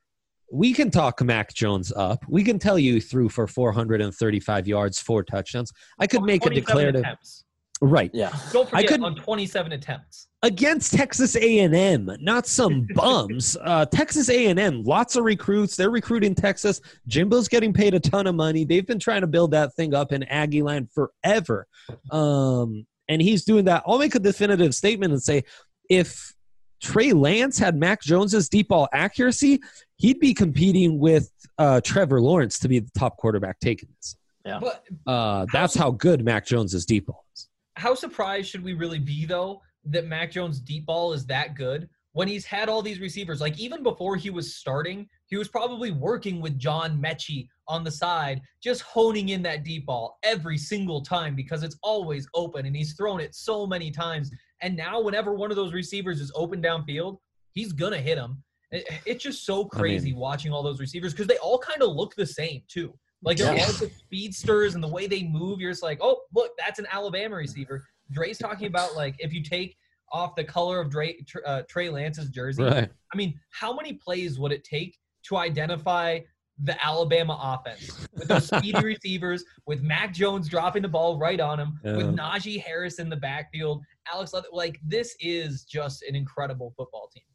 we can talk Mac Jones up. We can tell you threw for 435 yards, 4 touchdowns. I could make a declarative. Attempts. Right. Yeah. Don't forget on 27 attempts. Against Texas A&M, not some bums. Texas A&M, lots of recruits. They're recruiting Texas. Jimbo's getting paid a ton of money. They've been trying to build that thing up in Aggie land forever. And he's doing that. I'll make a definitive statement and say if Trey Lance had Mac Jones's deep ball accuracy, he'd be competing with Trevor Lawrence to be the top quarterback taking this. Yeah. But that's how good Mac Jones's deep ball is. How surprised should we really be, though, that Mac Jones' deep ball is that good when he's had all these receivers? Like, even before he was starting, he was probably working with John Mechie on the side, just honing in that deep ball every single time because it's always open, and he's thrown it so many times. And now whenever one of those receivers is open downfield, he's going to hit him. It's just so crazy watching all those receivers because they all kind of look the same, too. Like, they're all the speedsters, and the way they move, you're just like, oh, look, that's an Alabama receiver. Dre's talking about, like, if you take off the color of Trey Lance's jersey, right. I mean, how many plays would it take to identify the Alabama offense with those speedy receivers, with Mac Jones dropping the ball right on him, with Najee Harris in the backfield, Alex Leather? Like, this is just an incredible football team.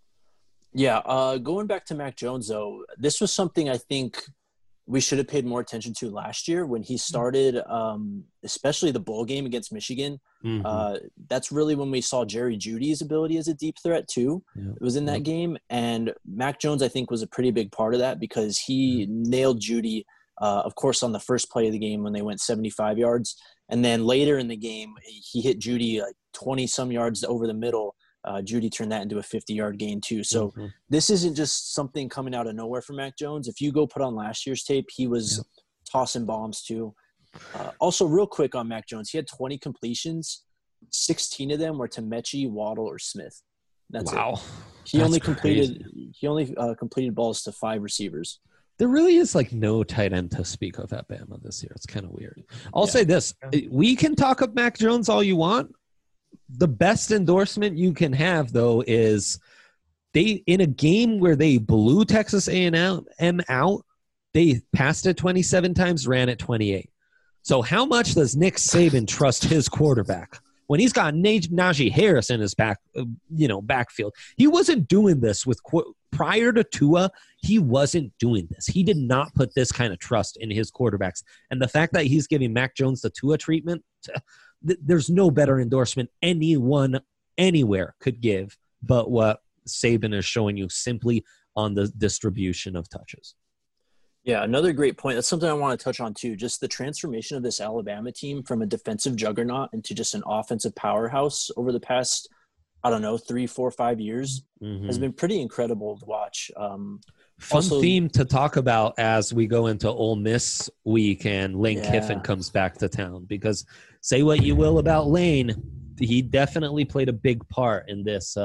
Yeah, going back to Mac Jones, though, this was something I think we should have paid more attention to last year when he started, especially the bowl game against Michigan. Mm-hmm. That's really when we saw Jerry Jeudy's ability as a deep threat too. Yeah. It was in that game. And Mac Jones, I think, was a pretty big part of that because he nailed Jeudy, of course, on the first play of the game when they went 75 yards. And then later in the game, he hit Jeudy like 20-some yards over the middle. Jeudy turned that into a 50-yard gain too. So this isn't just something coming out of nowhere for Mac Jones. If you go put on last year's tape, he was tossing bombs too. Also, real quick on Mac Jones, he had 20 completions. 16 of them were to Mechie, Waddle, or Smith. That's it. He only completed balls to 5 receivers. There really is like no tight end to speak of at Bama this year. It's kind of weird. I'll say this. We can talk up Mac Jones all you want. The best endorsement you can have, though, is they in a game where they blew Texas A&M out, they passed it 27 times, ran it 28. So how much does Nick Saban trust his quarterback when he's got Najee Harris in his backfield? He wasn't doing this with prior to Tua. He wasn't doing this. He did not put this kind of trust in his quarterbacks. And the fact that he's giving Mac Jones the Tua treatment, there's no better endorsement anyone anywhere could give but what Saban is showing you simply on the distribution of touches. Yeah, another great point. That's something I want to touch on too. Just the transformation of this Alabama team from a defensive juggernaut into just an offensive powerhouse over the past, 3, 4, 5 years has been pretty incredible to watch. Fun theme to talk about as we go into Ole Miss week and Lane Kiffin comes back to town, because say what you will about Lane, he definitely played a big part in this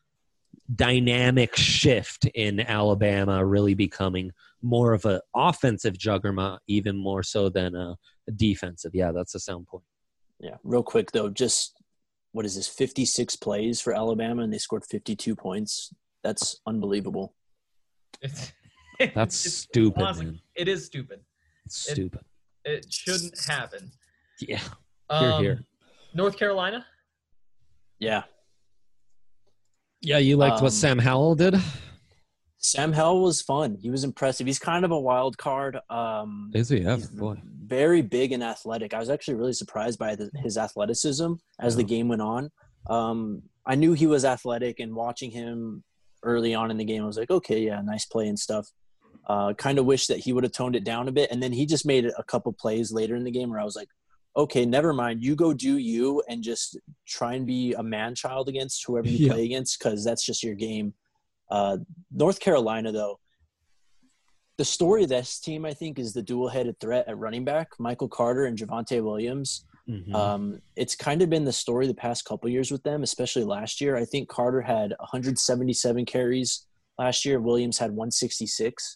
dynamic shift in Alabama really becoming more of an offensive juggernaut, even more so than a defensive. Yeah, that's a sound point. Yeah, real quick though, just what is this, 56 plays for Alabama and they scored 52 points. That's unbelievable. That's stupid, honestly, man. It is stupid. It's stupid. It shouldn't happen. Yeah. Here. North Carolina? Yeah. Yeah, you liked what Sam Howell did? Sam Howell was fun. He was impressive. He's kind of a wild card. Is he? Yeah, boy. Very big and athletic. I was actually really surprised by his athleticism as the game went on. I knew he was athletic, and watching him early on in the game, I was like, okay, yeah, nice play and stuff. Kind of wish that he would have toned it down a bit. And then he just made a couple plays later in the game where I was like, okay, never mind. You go do you and just try and be a man-child against whoever you play against, because that's just your game. North Carolina, though, the story of this team, I think, is the dual-headed threat at running back, Michael Carter and Javonte Williams. It's kind of been the story the past couple years with them, especially last year. I think Carter had 177 carries last year. Williams had 166.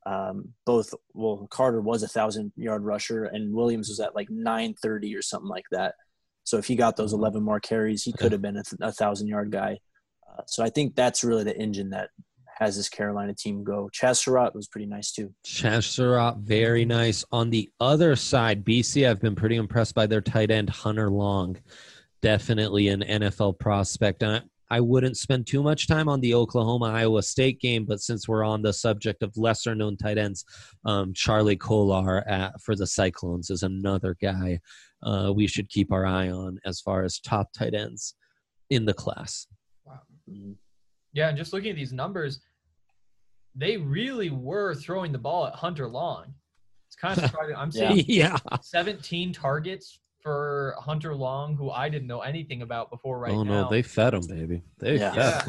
Carter was a 1,000-yard rusher, and Williams was at like 930 or something like that. So if he got those 11 more carries, he could have been a 1,000-yard guy. So I think that's really the engine that has this Carolina team go. Chaz Surratt was pretty nice too. Chaz Surratt, very nice. On the other side, BC, I've been pretty impressed by their tight end, Hunter Long. Definitely an NFL prospect. And I wouldn't spend too much time on the Oklahoma-Iowa State game, but since we're on the subject of lesser-known tight ends, Charlie Kolar for the Cyclones is another guy we should keep our eye on as far as top tight ends in the class. Wow. Yeah, and just looking at these numbers, they really were throwing the ball at Hunter Long. It's kind of surprising. I'm seeing 17 targets for Hunter Long, who I didn't know anything about before now. No, they fed him, baby. They fed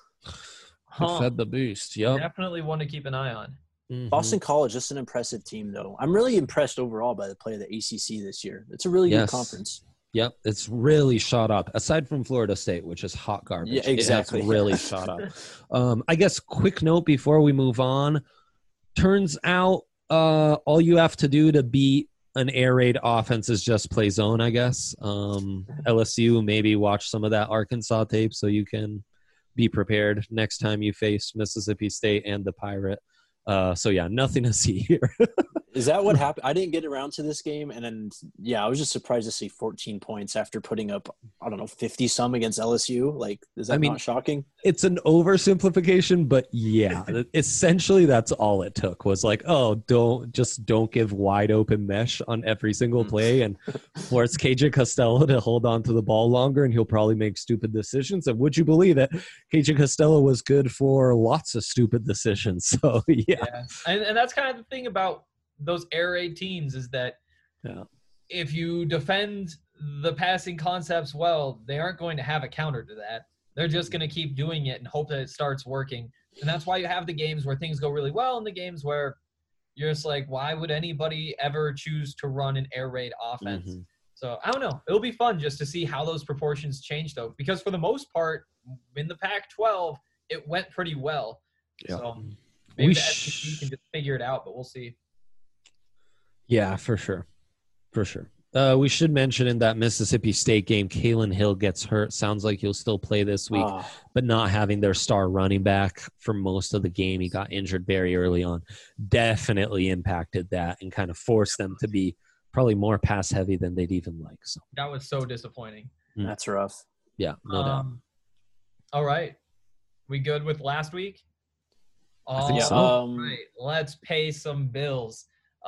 the beast. Yep. Definitely one to keep an eye on. Mm-hmm. Boston College, just an impressive team, though. I'm really impressed overall by the play of the ACC this year. It's a really good conference. Yep, it's really shot up. Aside from Florida State, which is hot garbage. Yeah, exactly. It's really shot up. I guess quick note before we move on. Turns out all you have to do to beat an air raid offense is just play zone, I guess. LSU, maybe watch some of that Arkansas tape so you can be prepared next time you face Mississippi State and the Pirate. So, yeah, nothing to see here. Is that what happened? I didn't get around to this game. And then, I was just surprised to see 14 points after putting up, 50-some against LSU. Like, is that not shocking? It's an oversimplification, but yeah, essentially that's all it took was like, don't give wide open mesh on every single play and force KJ Costello to hold on to the ball longer, and he'll probably make stupid decisions. And would you believe it? KJ Costello was good for lots of stupid decisions. So, yeah. And that's kind of the thing about those air raid teams is that if you defend the passing concepts well, they aren't going to have a counter to that. They're just going to keep doing it and hope that it starts working. And that's why you have the games where things go really well and the games where you're just like, why would anybody ever choose to run an air raid offense? Mm-hmm. So I don't know. It'll be fun just to see how those proportions change, though, because for the most part, in the Pac-12, it went pretty well. Yeah. So maybe the SEC can just figure it out, but we'll see. Yeah, for sure. For sure. We should mention in that Mississippi State game, Kalen Hill gets hurt. Sounds like he'll still play this week, but not having their star running back for most of the game. He got injured very early on. Definitely impacted that and kind of forced them to be probably more pass heavy than they'd even like. So that was so disappointing. That's rough. Yeah, no doubt. All right. We good with last week? I think so. Right. Let's pay some bills.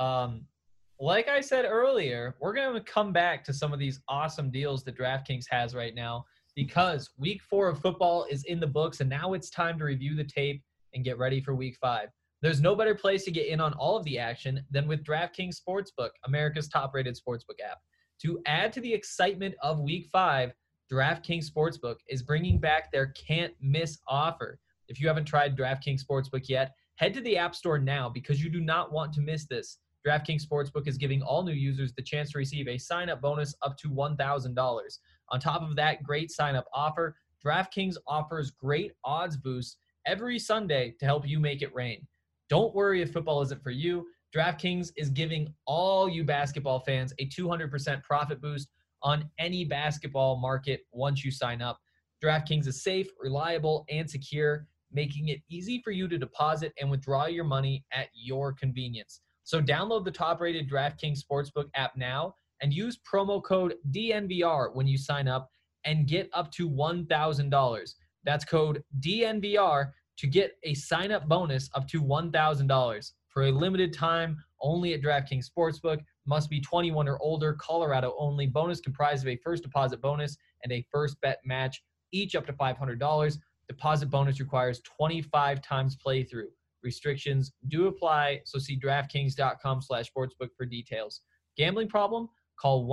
Like I said earlier, we're going to come back to some of these awesome deals that DraftKings has right now because week 4 of football is in the books, and now it's time to review the tape and get ready for week 5. There's no better place to get in on all of the action than with DraftKings Sportsbook, America's top-rated sportsbook app. To add to the excitement of week 5, DraftKings Sportsbook is bringing back their can't-miss offer. If you haven't tried DraftKings Sportsbook yet, head to the App Store now because you do not want to miss this. DraftKings Sportsbook is giving all new users the chance to receive a sign-up bonus up to $1,000. On top of that great sign-up offer, DraftKings offers great odds boosts every Sunday to help you make it rain. Don't worry if football isn't for you. DraftKings is giving all you basketball fans a 200% profit boost on any basketball market once you sign up. DraftKings is safe, reliable, and secure, making it easy for you to deposit and withdraw your money at your convenience. So download the top-rated DraftKings Sportsbook app now and use promo code DNVR when you sign up and get up to $1,000. That's code DNVR to get a sign-up bonus up to $1,000. For a limited time, only at DraftKings Sportsbook. Must be 21 or older, Colorado only. Bonus comprised of a first deposit bonus and a first bet match, each up to $500. Deposit bonus requires 25 times playthrough. Restrictions do apply, so see DraftKings.com/sportsbook for details. Gambling problem? Call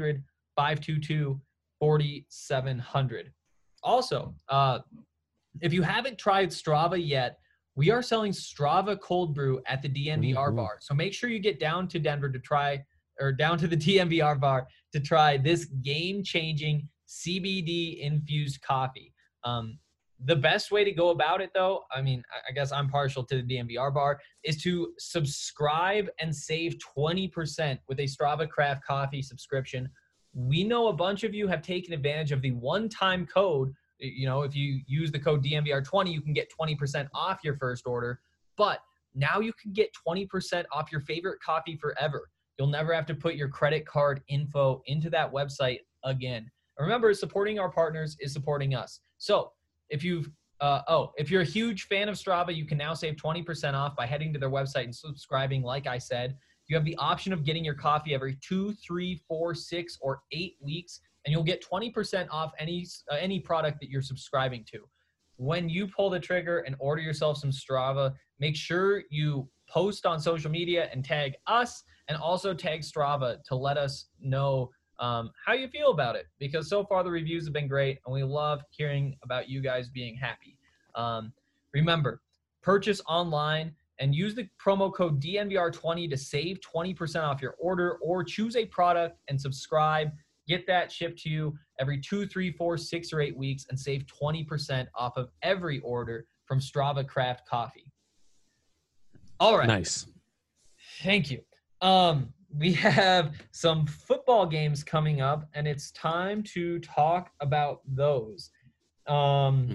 1-800-522-4700. Also, if you haven't tried Strava yet, we are selling Strava Cold Brew at the DNVR bar. So make sure you get down to Denver to try, or down to the DNVR bar to try this game-changing CBD-infused coffee. The best way to go about it, though, I mean, I guess I'm partial to the DNVR bar, is to subscribe and save 20% with a Strava Craft Coffee subscription. We know a bunch of you have taken advantage of the one-time code If you use the code DNVR20, you can get 20% off your first order. But now you can get 20% off your favorite coffee forever. You'll never have to put your credit card info into that website again. And remember, supporting our partners is supporting us. So if you're a huge fan of Strava, you can now save 20% off by heading to their website and subscribing. Like I said, you have the option of getting your coffee every 2, 3, 4, 6, or 8 weeks, and you'll get 20% off any product that you're subscribing to. When you pull the trigger and order yourself some Strava, make sure you post on social media and tag us, and also tag Strava to let us know how you feel about it, because so far the reviews have been great and we love hearing about you guys being happy. Remember, purchase online and use the promo code DNVR20 to save 20% off your order, or choose a product and subscribe. Get that shipped to you every 2, 3, 4, 6, or 8 weeks and save 20% off of every order from Strava Craft Coffee. All right. Nice. Thank you. We have some football games coming up, and it's time to talk about those. Wow.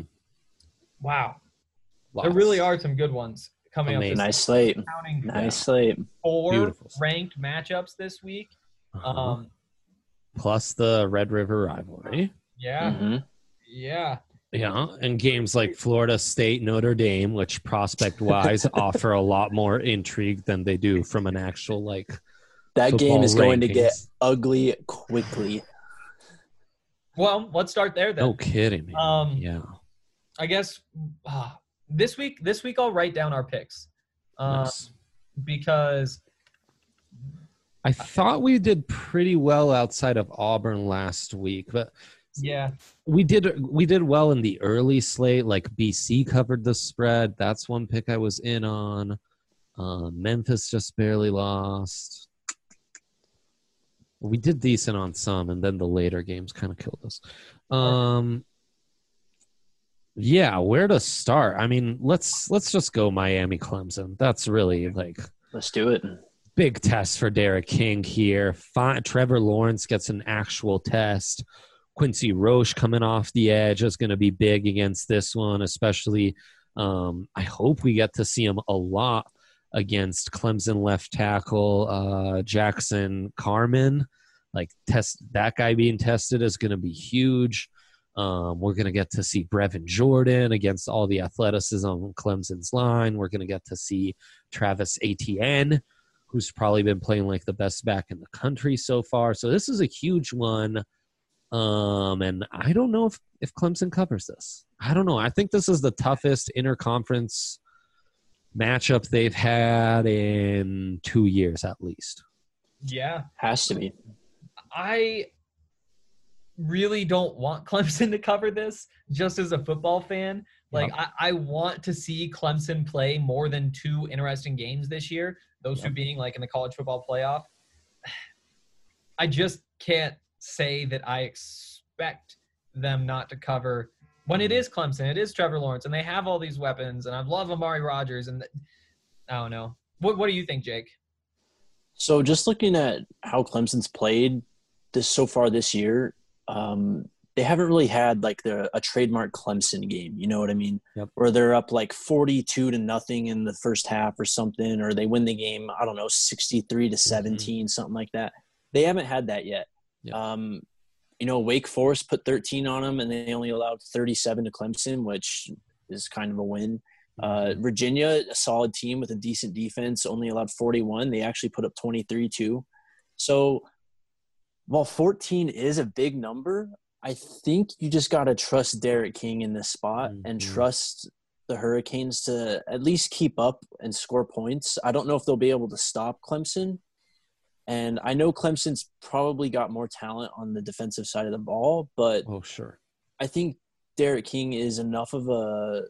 There really are some good ones coming up. Nice slate. Nice slate. 4 Beautiful. Ranked matchups this week. Plus the Red River rivalry. Yeah. Mm-hmm. Yeah. Yeah, and games like Florida State, Notre Dame, which prospect-wise offer a lot more intrigue than they do from an actual, that game is going to rankings. get ugly quickly. Well, let's start there then. No kidding, man. Yeah. I guess this week I'll write down our picks. Nice. Because I thought we did pretty well outside of Auburn last week, but yeah, we did well in the early slate. Like BC covered the spread. That's one pick I was in on. Memphis just barely lost. We did decent on some, and then the later games kind of killed us. Yeah, where to start? I mean, let's just go Miami Clemson. That's really Let's do it. big test for Derek King here. Trevor Lawrence gets an actual test. Quincy Roche coming off the edge is going to be big against this one, especially I hope we get to see him a lot against Clemson left tackle Jackson Carman. That guy being tested is going to be huge. We're going to get to see Brevin Jordan against all the athleticism on Clemson's line. We're going to get to see Travis Etienne, who's probably been playing like the best back in the country so far. So this is a huge one. And I don't know if Clemson covers this. I don't know. I think this is the toughest interconference matchup they've had in 2 years at least. Yeah. Has to be. I really don't want Clemson to cover this just as a football fan. I want to see Clemson play more than 2 interesting games this year, those 2 being in the college football playoff. I just can't say that I expect them not to cover when it is Clemson. It is Trevor Lawrence, and they have all these weapons, and I love Amari Rodgers, and I don't know. What do you think, Jake? So just looking at how Clemson's played so far this year, they haven't really had a trademark Clemson game. You know what I mean? Yep. Where they're up 42-0 in the first half or something, or they win the game, I don't know, 63-17, something like that. They haven't had that yet. Yep. Wake Forest put 13 on them, and they only allowed 37 to Clemson, which is kind of a win. Virginia, a solid team with a decent defense, only allowed 41. They actually put up 23 too. So while 14 is a big number, I think you just got to trust Derek King in this spot and trust the Hurricanes to at least keep up and score points. I don't know if they'll be able to stop Clemson. And I know Clemson's probably got more talent on the defensive side of the ball, but I think Derek King is enough of a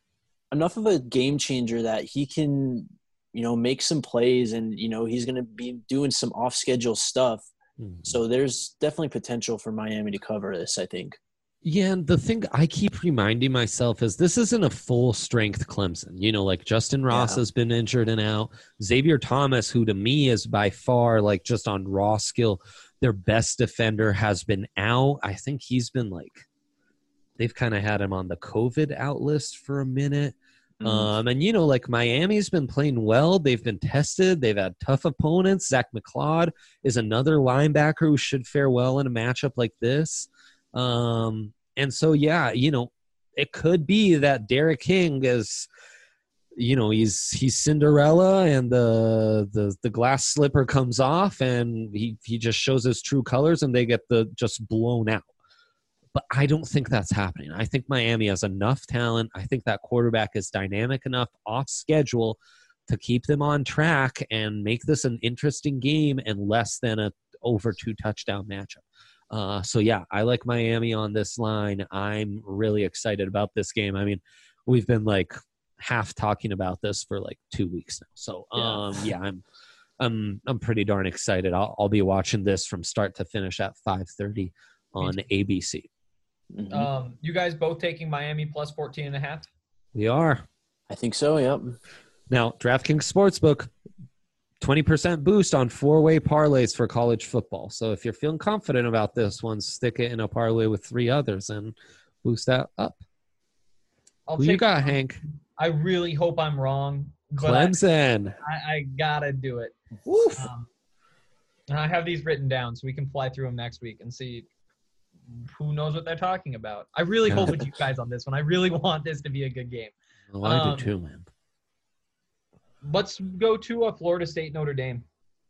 game changer that he can, make some plays, and he's going to be doing some off schedule stuff. So there's definitely potential for Miami to cover this, I think. Yeah, and the thing I keep reminding myself is this isn't a full-strength Clemson. Justin Ross has been injured and out. Xavier Thomas, who to me is by far, just on raw skill, their best defender, has been out. I think he's been, they've kind of had him on the COVID out list for a minute. Mm. And, like Miami's been playing well. They've been tested. They've had tough opponents. Zach McLeod is another linebacker who should fare well in a matchup like this. And so, yeah, it could be that Derek King is, he's Cinderella and the glass slipper comes off and he just shows his true colors and they get just blown out. But I don't think that's happening. I think Miami has enough talent. I think that quarterback is dynamic enough off schedule to keep them on track and make this an interesting game and less than a over 2 touchdown matchup. So, yeah, I like Miami on this line. I'm really excited about this game. I mean, we've been like half talking about this for like 2 weeks now. So, yeah, I'm pretty darn excited. I'll be watching this from start to finish at 5:30 on ABC. Mm-hmm. You guys both taking Miami plus 14.5? We are. I think so, yep. Now, DraftKings Sportsbook, 20% boost on 4-way parlays for college football. So if you're feeling confident about this one, stick it in a parlay with 3 others and boost that up. Who you got, Hank? I really hope I'm wrong. Clemson. I gotta do it. I have these written down so we can fly through them next week and see who knows what they're talking about. I really hope with you guys on this one. I really want this to be a good game. Well, I do too, man. Let's go to Florida State, Notre Dame.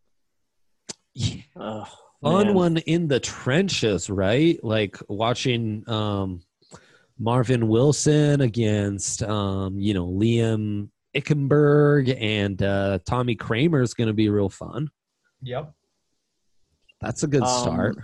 Yeah. Fun one in the trenches, right? Like watching Marvin Wilson against, Liam Ickenberg and Tommy Kramer is going to be real fun. Yep. That's a good start.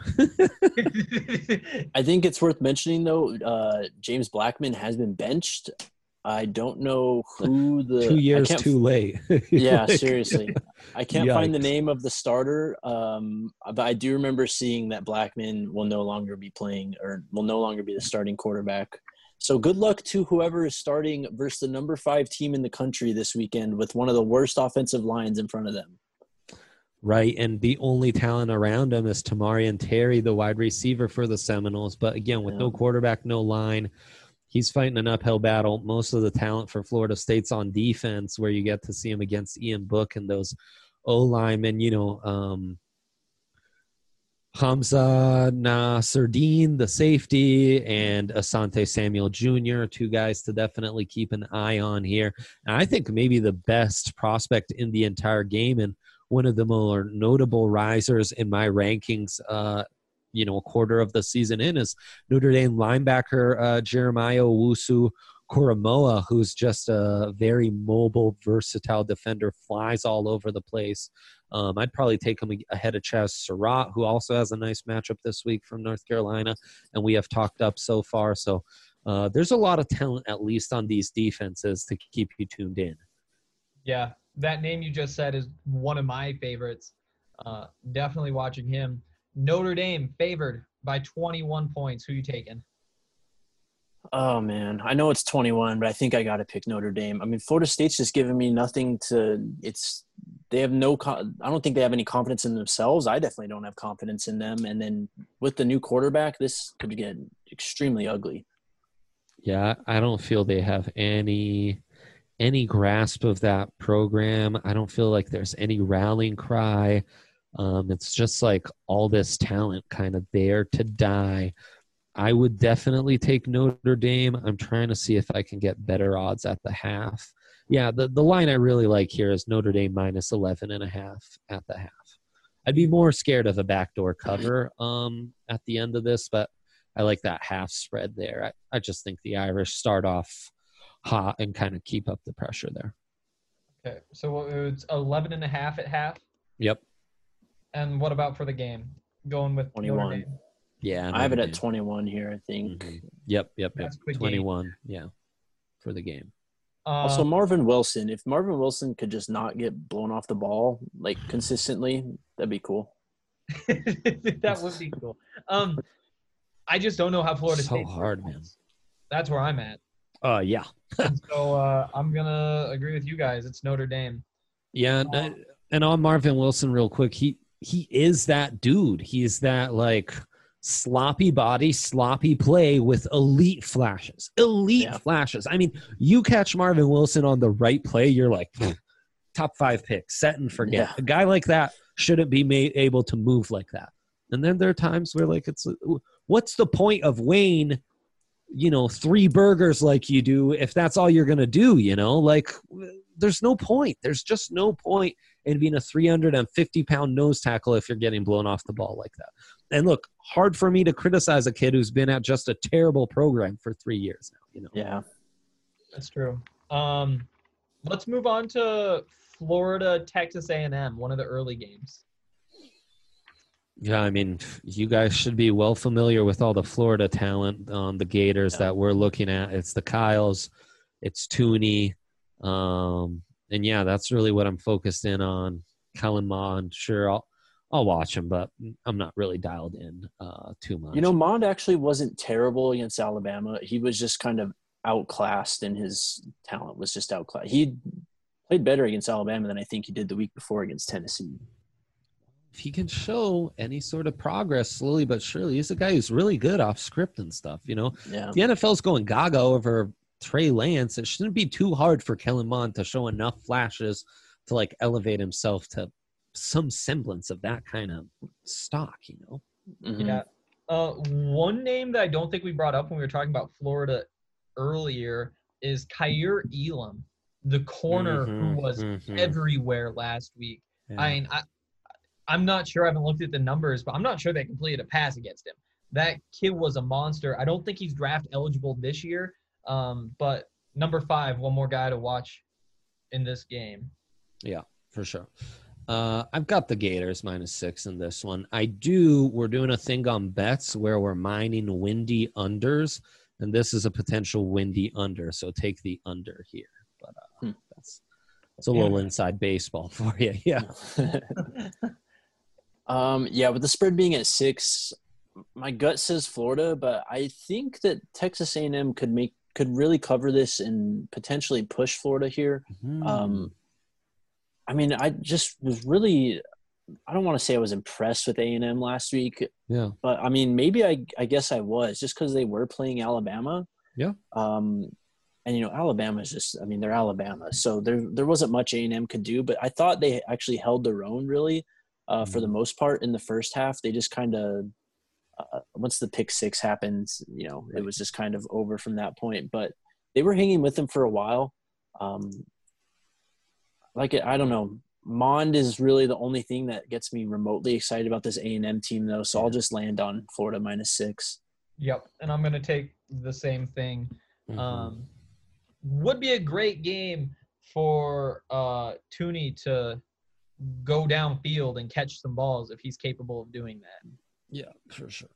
I think it's worth mentioning, though, James Blackman has been benched. I don't know who 2 years too late. Yeah, seriously. I can't find the name of the starter, but I do remember seeing that Blackman will no longer be playing or will no longer be the starting quarterback. So good luck to whoever is starting versus the number 5 team in the country this weekend with one of the worst offensive lines in front of them. Right, and the only talent around him is Tamarian Terry, the wide receiver for the Seminoles. But again, with no quarterback, no line, he's fighting an uphill battle. Most of the talent for Florida State's on defense, where you get to see him against Ian Book and those O-linemen, Hamza Nasruddin, the safety, and Asante Samuel Jr., 2 guys to definitely keep an eye on here. And I think maybe the best prospect in the entire game and one of the more notable risers in my rankings, a quarter of the season in, is Notre Dame linebacker Jeremiah Owusu-Koramoah, who's just a very mobile, versatile defender, flies all over the place. I'd probably take him ahead of Chaz Surratt, who also has a nice matchup this week from North Carolina, and we have talked up so far. So there's a lot of talent, at least on these defenses, to keep you tuned in. Yeah, that name you just said is one of my favorites. Definitely watching him. Notre Dame favored by 21 points. Who you taking? Oh, man. I know it's 21, but I think I got to pick Notre Dame. I mean, Florida State's just giving me nothing to – they have I don't think they have any confidence in themselves. I definitely don't have confidence in them. And then with the new quarterback, this could get extremely ugly. Yeah, I don't feel they have any grasp of that program. I don't feel like there's any rallying cry. It's just like all this talent kind of there to die. I would definitely take Notre Dame. I'm trying to see if I can get better odds at the half. Yeah, the line I really like here is Notre Dame minus 11.5 at the half. I'd be more scared of a backdoor cover at the end of this, but I like that half spread there. I just think the Irish start off hot and kind of keep up the pressure there. Okay, so it's 11.5 at half? Yep. And what about for the game? Going with 21. Yeah. I have it at 21 here, I think. Mm-hmm. Yep. 21, game. Yeah, for the game. Also, Marvin Wilson. If Marvin Wilson could just not get blown off the ball, like, consistently, that'd be cool. That would be cool. I just don't know how Florida State. So hard, man. That's where I'm at. Yeah. So I'm going to agree with you guys. It's Notre Dame. Yeah, and on Marvin Wilson real quick, he is that dude. He's that, like, sloppy body, sloppy play with elite flashes. Flashes. I mean, you catch Marvin Wilson on the right play, you're like, top 5 pick, set and forget. Yeah. A guy like that shouldn't be able to move like that. And then there are times where, like, it's what's the point of Wayne, 3 burgers like you do if that's all you're going to do, Like, there's no point. There's just no point in being a 350-pound nose tackle if you're getting blown off the ball like that. And look, hard for me to criticize a kid who's been at just a terrible program for 3 years now, Yeah. That's true. Let's move on to Florida, Texas A&M, one of the early games. Yeah, I mean, you guys should be well familiar with all the Florida talent on the Gators that we're looking at. It's the Kyles, it's Tooney, and yeah, that's really what I'm focused in on. Kellen Mond, sure, I'll watch him, but I'm not really dialed in too much. Mond actually wasn't terrible against Alabama. He was just kind of outclassed, and his talent was just outclassed. He played better against Alabama than I think he did the week before against Tennessee. If he can show any sort of progress slowly but surely, he's a guy who's really good off script and stuff, Yeah. If the NFL's going gaga over Trey Lance, it shouldn't be too hard for Kellen Mond to show enough flashes to, like, elevate himself to some semblance of that kind of stock, Mm-hmm. Yeah. One name that I don't think we brought up when we were talking about Florida earlier is Kaiir Elam, the corner who was everywhere last week. Yeah. I mean, I'm not sure. I haven't looked at the numbers, but I'm not sure they completed a pass against him. That kid was a monster. I don't think he's draft eligible this year. But number 5, one more guy to watch in this game. Yeah, for sure. I've got the Gators -6 in this one. We're doing a thing on bets where we're mining windy unders, and this is a potential windy under, so take the under here. But it's a little inside baseball for you. Yeah. With the spread being at 6, my gut says Florida, but I think that Texas A&M could really cover this and potentially push Florida here. I mean, I just was really – I don't want to say I was impressed with A&M last week. Yeah. But, I mean, maybe I guess I was just because they were playing Alabama. Yeah. And, Alabama is just – I mean, they're Alabama. So there wasn't much A&M could do. But I thought they actually held their own really for the most part in the first half. They just kind of once the pick 6 happened, it was just kind of over from that point. But they were hanging with them for a while. I don't know. Mond is really the only thing that gets me remotely excited about this A&M team, though. So I'll just land on Florida -6. Yep, and I'm going to take the same thing. Would be a great game for Tooney to go downfield and catch some balls if he's capable of doing that. Yeah, for sure.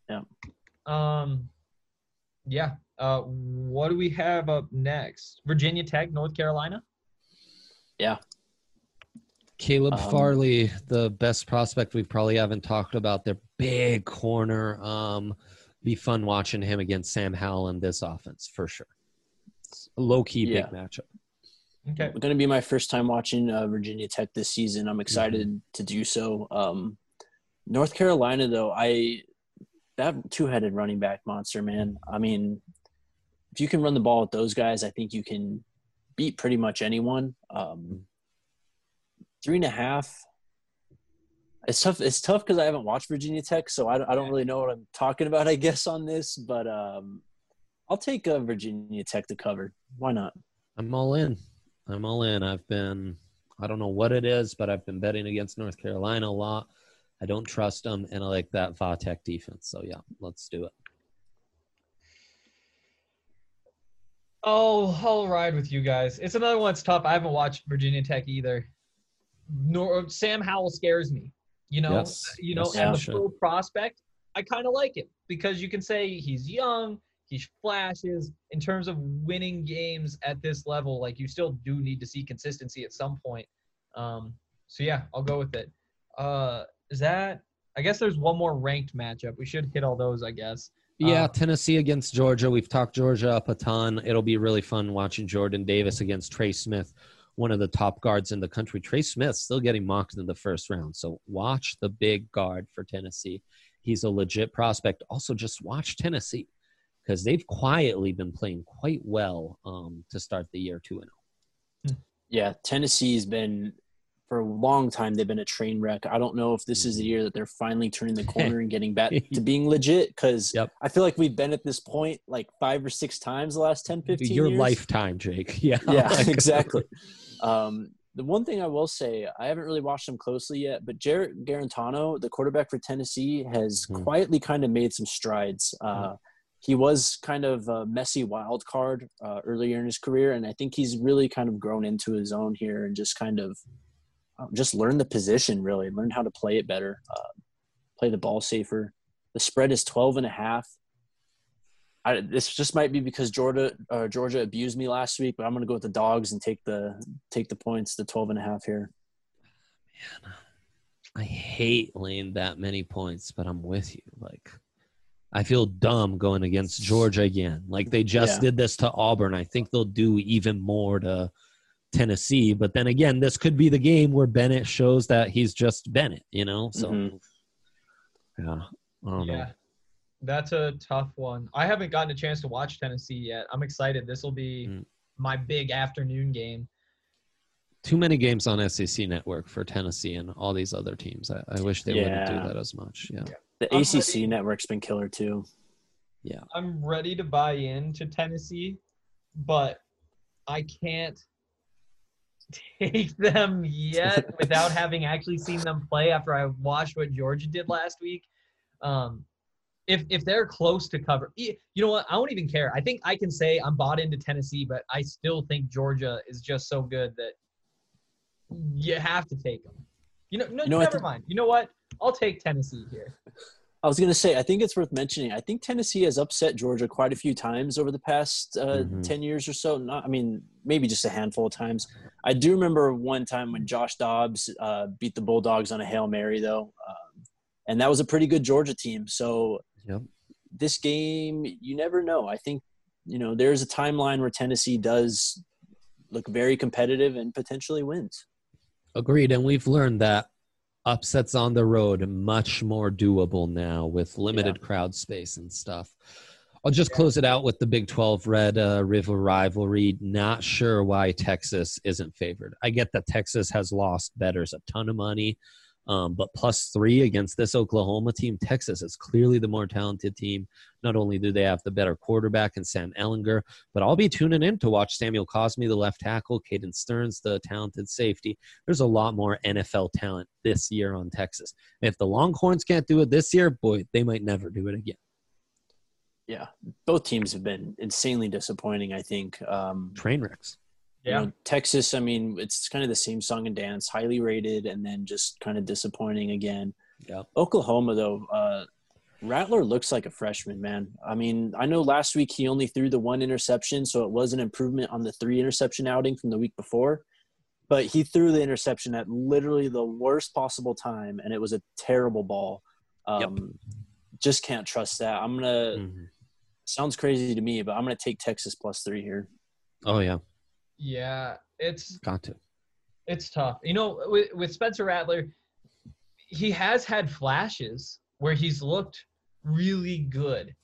Yeah. What do we have up next? Virginia Tech, North Carolina? Yeah. Caleb Farley, the best prospect we probably haven't talked about. Their big corner. Be fun watching him against Sam Howell in this offense for sure. It's a low-key big matchup. Okay. It's going to be my first time watching Virginia Tech this season. I'm excited to do so. North Carolina, though, that two-headed running back monster, man. I mean, if you can run the ball with those guys, I think you can beat pretty much anyone. 3.5. It's tough. It's tough because I haven't watched Virginia Tech, so I don't really know what I'm talking about, I guess, on this. But I'll take Virginia Tech to cover. Why not? I'm all in. I don't know what it is, but I've been betting against North Carolina a lot. I don't trust them, and I like that Va-Tech defense. So, yeah, let's do it. Oh, I'll ride with you guys. It's another one that's tough. I haven't watched Virginia Tech either. Sam Howell scares me. As a pro prospect, I kind of like it because you can say he's young, he flashes. In terms of winning games at this level, like you still do need to see consistency at some point. So yeah, I'll go with it. I guess there's one more ranked matchup. We should hit all those, I guess. Yeah, Tennessee against Georgia. We've talked Georgia up a ton. It'll be really fun watching Jordan Davis against Trey Smith, one of the top guards in the country. Trey Smith still getting mocked in the first round. So watch the big guard for Tennessee he's a legit prospect. Also, just watch Tennessee because they've quietly been playing quite well to start the year 2-0. Yeah, Tennessee's been for a long time. They've been a train wreck. I don't know if this is the year that they're finally turning the corner and getting back to being legit. Because I feel like we've been at this point like 5 or 6 times the last 10, 15 Your years. lifetime, Jake. Yeah, exactly. The one thing I will say, I haven't really watched them closely yet, but Jarrett Garantano, the quarterback for Tennessee, has quietly kind of made some strides. He was kind of a messy wild card earlier in his career, and I think he's really kind of grown into his own here and just kind of just learned the position, really, learned how to play it better, play the ball safer. The spread is 12.5. This just might be because Georgia abused me last week, but I'm going to go with the dogs and take the points, the 12.5 here. Man, I hate laying that many points, but I'm with you. Like, I feel dumb going against Georgia again. Like, they just did this to Auburn. I think they'll do even more to Tennessee. But then again, this could be the game where Bennett shows that he's just Bennett, you know? So, yeah, I don't know. That's a tough one. I haven't gotten a chance to watch Tennessee yet. I'm excited. This will be my big afternoon game. Too many games on SEC Network for Tennessee and all these other teams. I wish they wouldn't do that as much. Yeah. The ACC network's been killer too. Yeah. I'm ready to buy into Tennessee, but I can't take them yet without having actually seen them play after I watched what Georgia did last week. If they're close to cover, you know what? I won't even care. I think I can say I'm bought into Tennessee, but I still think Georgia is just so good that you have to take them. Never mind. You know what? I'll take Tennessee here. I was going to say, I think it's worth mentioning. I think Tennessee has upset Georgia quite a few times over the past 10 years or so. Maybe just a handful of times. I do remember one time when Josh Dobbs beat the Bulldogs on a Hail Mary, though. And that was a pretty good Georgia team. So this game, you never know. I think, there's a timeline where Tennessee does look very competitive and potentially wins. Agreed. And we've learned that upsets on the road much more doable now with limited crowd space and stuff. I'll just close it out with the Big 12 Red River rivalry. Not sure why Texas isn't favored. I get that Texas has lost bettors a ton of money, but +3 against this Oklahoma team. Texas is clearly the more talented team. Not only do they have the better quarterback in Sam Ehlinger, but I'll be tuning in to watch Samuel Cosmi, the left tackle, Caden Stearns, the talented safety. There's a lot more NFL talent this year on Texas. If the Longhorns can't do it this year, boy, they might never do it again. Yeah, both teams have been insanely disappointing, I think. Train wrecks. Yeah. Texas, it's kind of the same song and dance, highly rated, and then just kind of disappointing again. Yeah. Oklahoma, though, Rattler looks like a freshman, man. I know last week he only threw the 1 interception, so it was an improvement on the 3 interception outing from the week before. But he threw the interception at literally the worst possible time, and it was a terrible ball. Just can't trust that. I'm going to sounds crazy to me, but I'm going to take Texas +3 here. Oh, yeah. Yeah, it's got to. It's tough. With Spencer Rattler, he has had flashes where he's looked really good.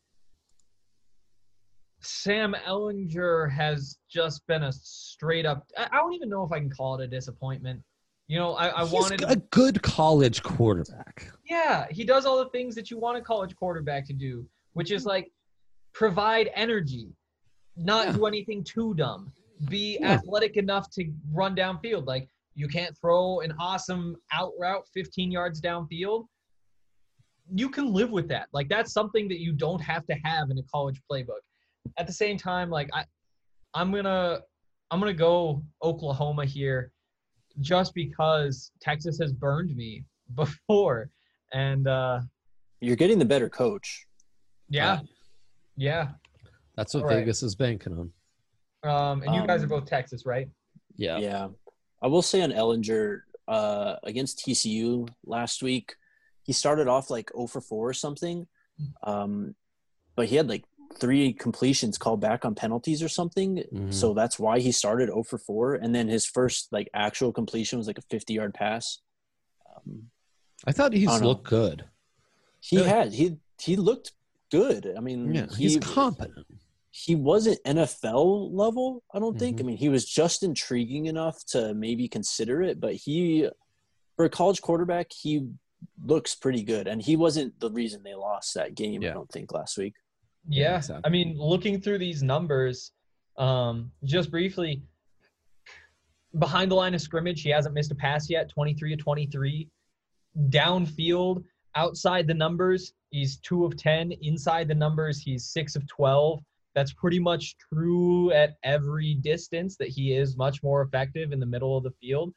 Sam Ehlinger has just been a straight up – I don't even know if I can call it a disappointment. He's a good college quarterback. Yeah, he does all the things that you want a college quarterback to do, which is like provide energy, not do anything too dumb. Be athletic enough to run downfield. Like, you can't throw an awesome out route 15 yards downfield. You can live with that. Like, that's something that you don't have to have in a college playbook. At the same time, like, I'm gonna go Oklahoma here just because Texas has burned me before. And you're getting the better coach. Yeah. That's what Vegas is banking on. And you guys are both Texas, right? Yeah. Yeah. I will say on Ehlinger, against TCU last week, he started off like 0 for 4 or something. But he had like 3 completions called back on penalties or something. So that's why he started 0 for 4. And then his first like actual completion was like a 50-yard pass. I thought he's looked good. He looked good. I mean, Yeah, he's competent. He wasn't NFL level, I don't think. I mean, he was just intriguing enough to maybe consider it, but for a college quarterback, he looks pretty good. And he wasn't the reason they lost that game, I don't think, last week. Yeah. Exactly. I mean, looking through these numbers, just briefly, behind the line of scrimmage, he hasn't missed a pass yet, 23 of 23. Downfield, outside the numbers, he's 2 of 10. Inside the numbers, he's 6 of 12. That's pretty much true at every distance, that he is much more effective in the middle of the field.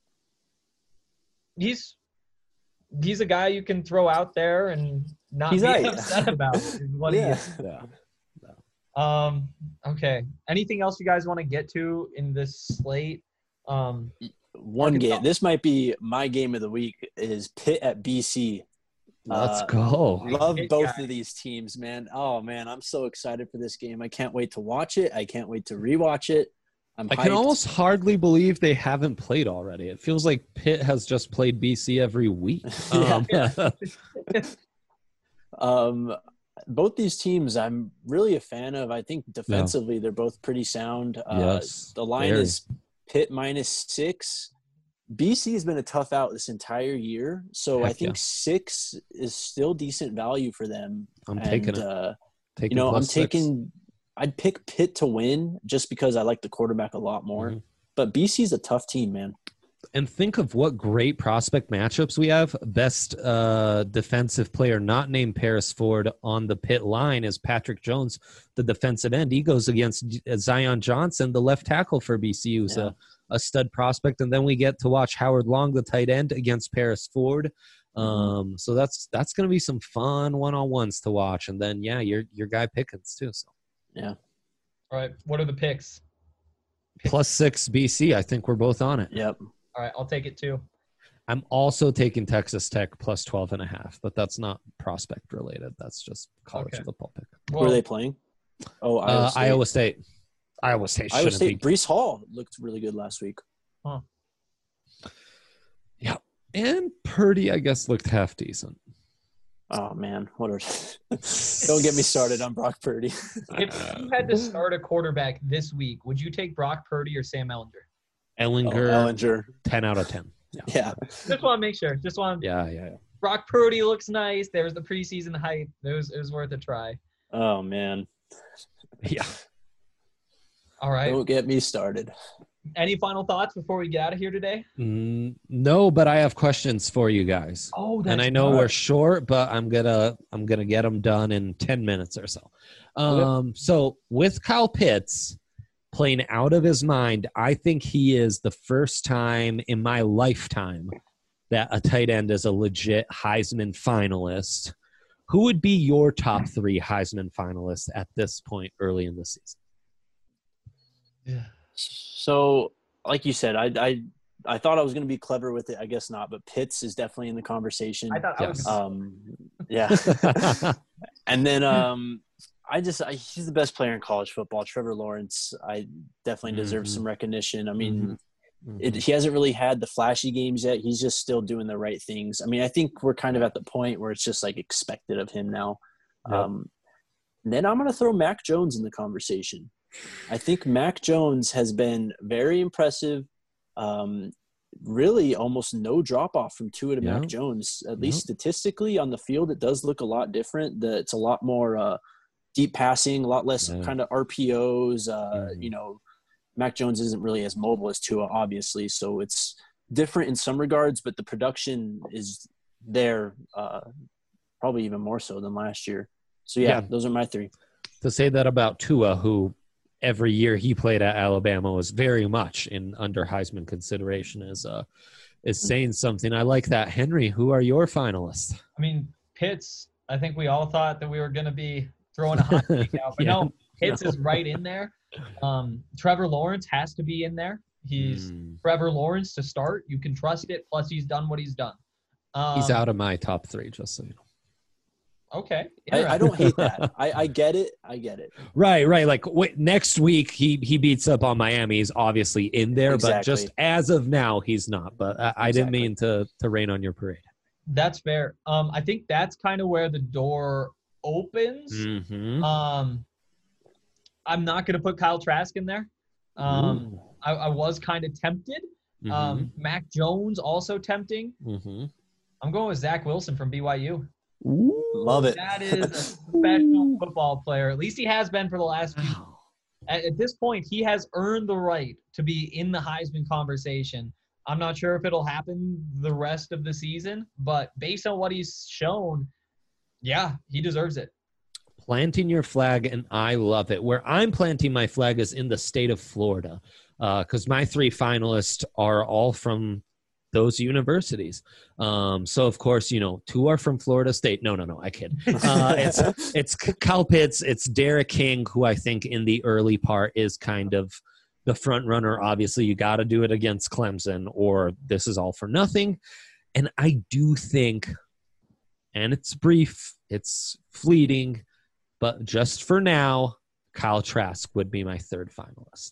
He's a guy you can throw out there and not be upset about. Is what he is. Okay. Anything else you guys want to get to in this slate? One game. This might be my game of the week is Pitt at BC. Let's go. Love both of these teams, man. Oh, man, I'm so excited for this game. I can't wait to watch it. I can't wait to rewatch it. I can almost hardly believe they haven't played already. It feels like Pitt has just played BC every week. Both these teams I'm really a fan of. I think defensively they're both pretty sound. Yes, the line is Pitt -6. BC has been a tough out this entire year, so I think 6 is still decent value for them. I'm taking it. I'd pick Pitt to win just because I like the quarterback a lot more. But BC's a tough team, man. And think of what great prospect matchups we have. Best defensive player not named Paris Ford on the Pitt line is Patrick Jones, the defensive end. He goes against Zion Johnson, the left tackle for BC, who's a stud prospect. And then we get to watch Howard Long, the tight end, against Paris Ford. So that's going to be some fun one-on-ones to watch. And then, your guy Pickens too. So. Yeah. All right. What are the picks? +6 BC. I think we're both on it. Yep. All right. I'll take it too. I'm also taking Texas Tech +12.5, but that's not prospect related. That's just college football pick. Who are they playing? Oh, Iowa State. Iowa State. Breece Hall looked really good last week. Huh. Yeah. And Purdy, I guess, looked half decent. Oh, man. Don't get me started on Brock Purdy. If you had to start a quarterback this week, would you take Brock Purdy or Sam Ehlinger? Ehlinger. 10 out of 10. Yeah. Just want to make sure. Yeah. Brock Purdy looks nice. There was the preseason hype. It was worth a try. Oh, man. Yeah. All right. Don't get me started. Any final thoughts before we get out of here today? No, but I have questions for you guys. Oh, that's and I know we're short, but I'm gonna get them done in 10 minutes or so. So with Kyle Pitts playing out of his mind, I think he is the first time in my lifetime that a tight end is a legit Heisman finalist. Who would be your top 3 Heisman finalists at this point early in the season? Yeah. So, like you said, I thought I was going to be clever with it. I guess not, but Pitts is definitely in the conversation. I thought I was. Yeah. And then he's the best player in college football. Trevor Lawrence, I definitely deserves some recognition. I mean, he hasn't really had the flashy games yet. He's just still doing the right things. I mean, I think we're kind of at the point where it's just like expected of him now. Yep. Then I'm going to throw Mac Jones in the conversation. I think Mac Jones has been very impressive. Really almost no drop-off from Tua to Mac Jones. At least statistically on the field, it does look a lot different. It's a lot more deep passing, a lot less kind of RPOs. Mac Jones isn't really as mobile as Tua, obviously, so it's different in some regards, but the production is there probably even more so than last year. So, those are my 3. To say that about Tua, who – every year he played at Alabama was very much in under Heisman consideration is saying something. I like that. Henry, who are your finalists? I mean, Pitts, I think we all thought that we were going to be throwing a hot take out, but no, Pitts is right in there. Trevor Lawrence has to be in there. He's Trevor Lawrence to start. You can trust it. Plus he's done what he's done. He's out of my top 3, just so you know. Okay. I don't hate that. I get it. Right. Like next week he beats up on Miami. He's obviously in there, but just as of now, he's not. But I didn't mean to rain on your parade. That's fair. I think that's kind of where the door opens. Mm-hmm. I'm not going to put Kyle Trask in there. I was kind of tempted. Mac Jones also tempting. I'm going with Zach Wilson from BYU. Ooh, love it. That is a professional football player. At least he has been for the last few. At this point, he has earned the right to be in the Heisman conversation. I'm not sure if it'll happen the rest of the season, but based on what he's shown, yeah, he deserves it. Planting your flag, and I love it. Where I'm planting my flag is in the state of Florida, because my 3 finalists are all from those universities. So of course, 2 are from Florida State. No, I kid. It's Kyle Pitts. It's Derek King, who I think in the early part is kind of the front runner. Obviously, you got to do it against Clemson, or this is all for nothing. And I do think, and it's brief, it's fleeting, but just for now, Kyle Trask would be my 3rd finalist.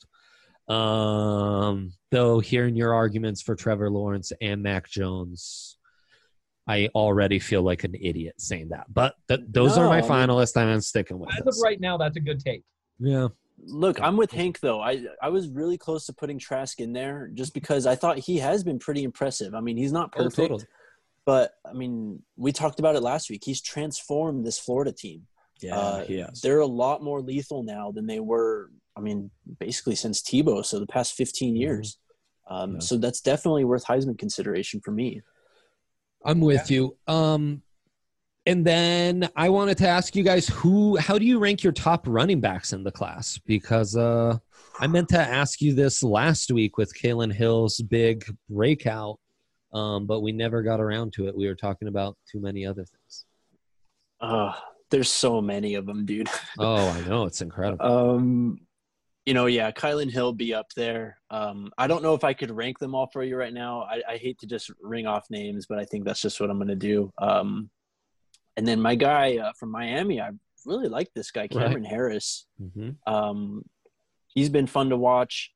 Though hearing your arguments for Trevor Lawrence and Mac Jones, I already feel like an idiot saying that. But those are my finalists, and I'm sticking with it. As of right now, that's a good take. Yeah. Look, I'm with Hank, though. I was really close to putting Trask in there just because I thought he has been pretty impressive. I mean, he's not perfect, totally. But, I mean, we talked about it last week. He's transformed this Florida team. Yeah, he has. They're a lot more lethal now than they were, I mean, basically since Tebow, so the past 15 years. So that's definitely worth Heisman consideration for me. I'm with you. And then I wanted to ask you guys, how do you rank your top running backs in the class? Because I meant to ask you this last week with Kalen Hill's big breakout, but we never got around to it. We were talking about too many other things. There's so many of them, dude. Oh, I know. It's incredible. Kylan Hill be up there. I don't know if I could rank them all for you right now. I hate to just ring off names, but I think that's just what I'm going to do. And then my guy from Miami, I really like this guy, Cameron Harris. He's been fun to watch.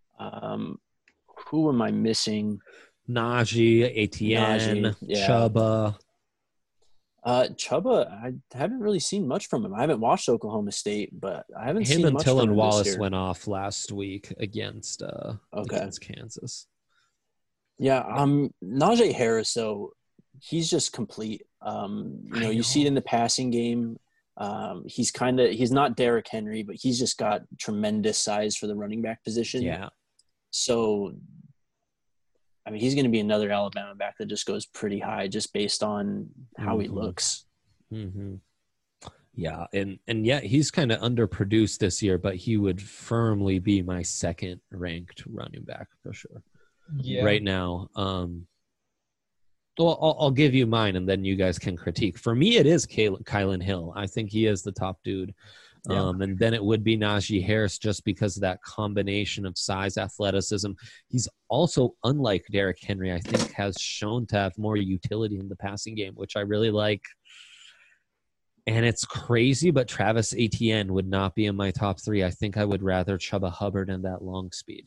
Who am I missing? Najee, Etienne, Chuba. Chuba, I haven't really seen much from him. I haven't watched Oklahoma State, but I haven't seen much from him. Him and Tylan Wallace went off last week against Kansas. Yeah, Najee Harris, though, he's just complete. You see it in the passing game. He's not Derrick Henry, but he's just got tremendous size for the running back position. Yeah. So, I mean, he's going to be another Alabama back that just goes pretty high just based on how he looks. Yeah, and he's kind of underproduced this year, but he would firmly be my 2nd ranked running back for sure. Yeah. Right now. Well, I'll give you mine, and then you guys can critique. For me, it is Kylan Hill. I think he is the top dude. And then it would be Najee Harris just because of that combination of size, athleticism. He's also, unlike Derrick Henry, I think has shown to have more utility in the passing game, which I really like. And it's crazy, but Travis Etienne would not be in my top 3. I think I would rather Chuba Hubbard and that long speed.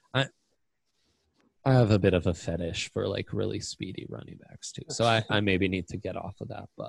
I have a bit of a fetish for like really speedy running backs too. So I maybe need to get off of that, but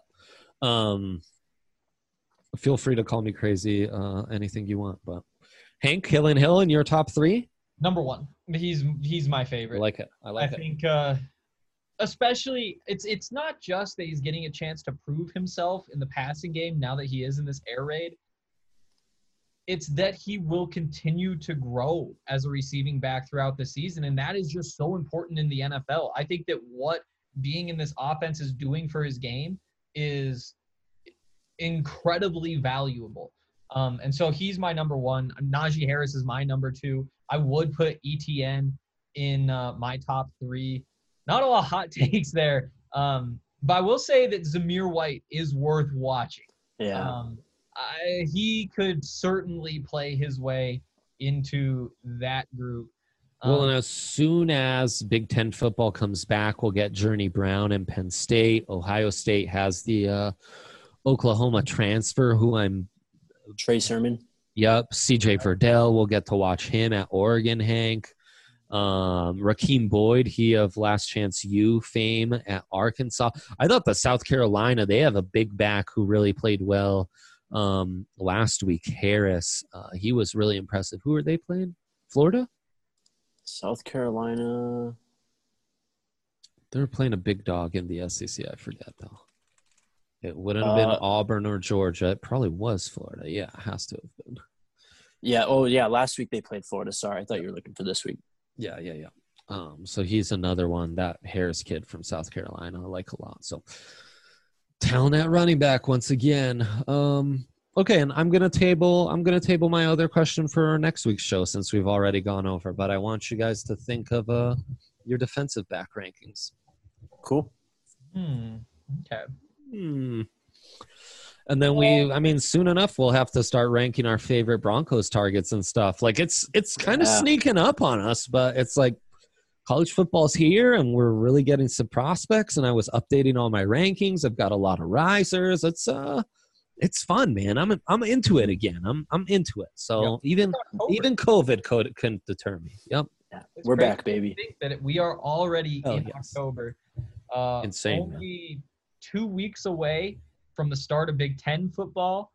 feel free to call me crazy, anything you want. But Hank, Kylan Hill in your top 3? Number 1. He's my favorite. I like it. I think especially it's not just that he's getting a chance to prove himself in the passing game now that he is in this air raid. It's that he will continue to grow as a receiving back throughout the season, and that is just so important in the NFL. I think that what being in this offense is doing for his game is incredibly valuable. And so he's my number 1. Najee Harris is my number 2. I would put ETN in my top 3. Not a lot of hot takes there, but I will say that Zamir White is worth watching. Yeah. He could certainly play his way into that group. Well, and as soon as Big Ten football comes back, we'll get Journey Brown and Penn State. Ohio State has the Oklahoma transfer, Trey Sermon. Yep, CJ Verdell. We'll get to watch him at Oregon, Hank. Raheem Boyd, he of Last Chance U fame at Arkansas. I thought the South Carolina, they have a big back who really played well last week. Harris, he was really impressive. Who are they playing? Florida? South Carolina. They're playing a big dog in the SEC. I forget, though. It wouldn't have been Auburn or Georgia. It probably was Florida. Yeah, it has to have been. Yeah. Oh, yeah. Last week they played Florida. Sorry, I thought you were looking for this week. Yeah. So he's another one, that Harris kid from South Carolina, I like a lot. So talent at running back once again. Okay, and I'm gonna table my other question for our next week's show since we've already gone over. But I want you guys to think of your defensive back rankings. Cool. Okay. And then soon enough we'll have to start ranking our favorite Broncos targets and stuff. Like it's kind of sneaking up on us, but it's like college football's here and we're really getting some prospects, and I was updating all my rankings. I've got a lot of risers. It's fun, man. I'm into it again. I'm into it. So even COVID couldn't deter me. Yep. Yeah. We're back, baby. Think that we are already in October. Insane. Only 2 weeks away from the start of Big Ten football.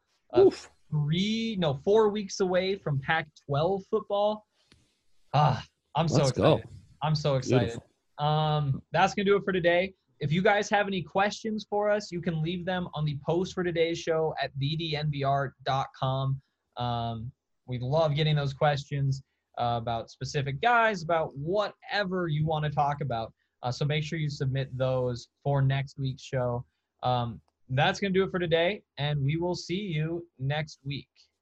4 weeks away from Pac-12 football. I'm so excited. I'm so excited. Beautiful. That's going to do it for today. If you guys have any questions for us, you can leave them on the post for today's show at thednvr.com. We love getting those questions about specific guys, about whatever you want to talk about. So make sure you submit those for next week's show. That's going to do it for today, and we will see you next week.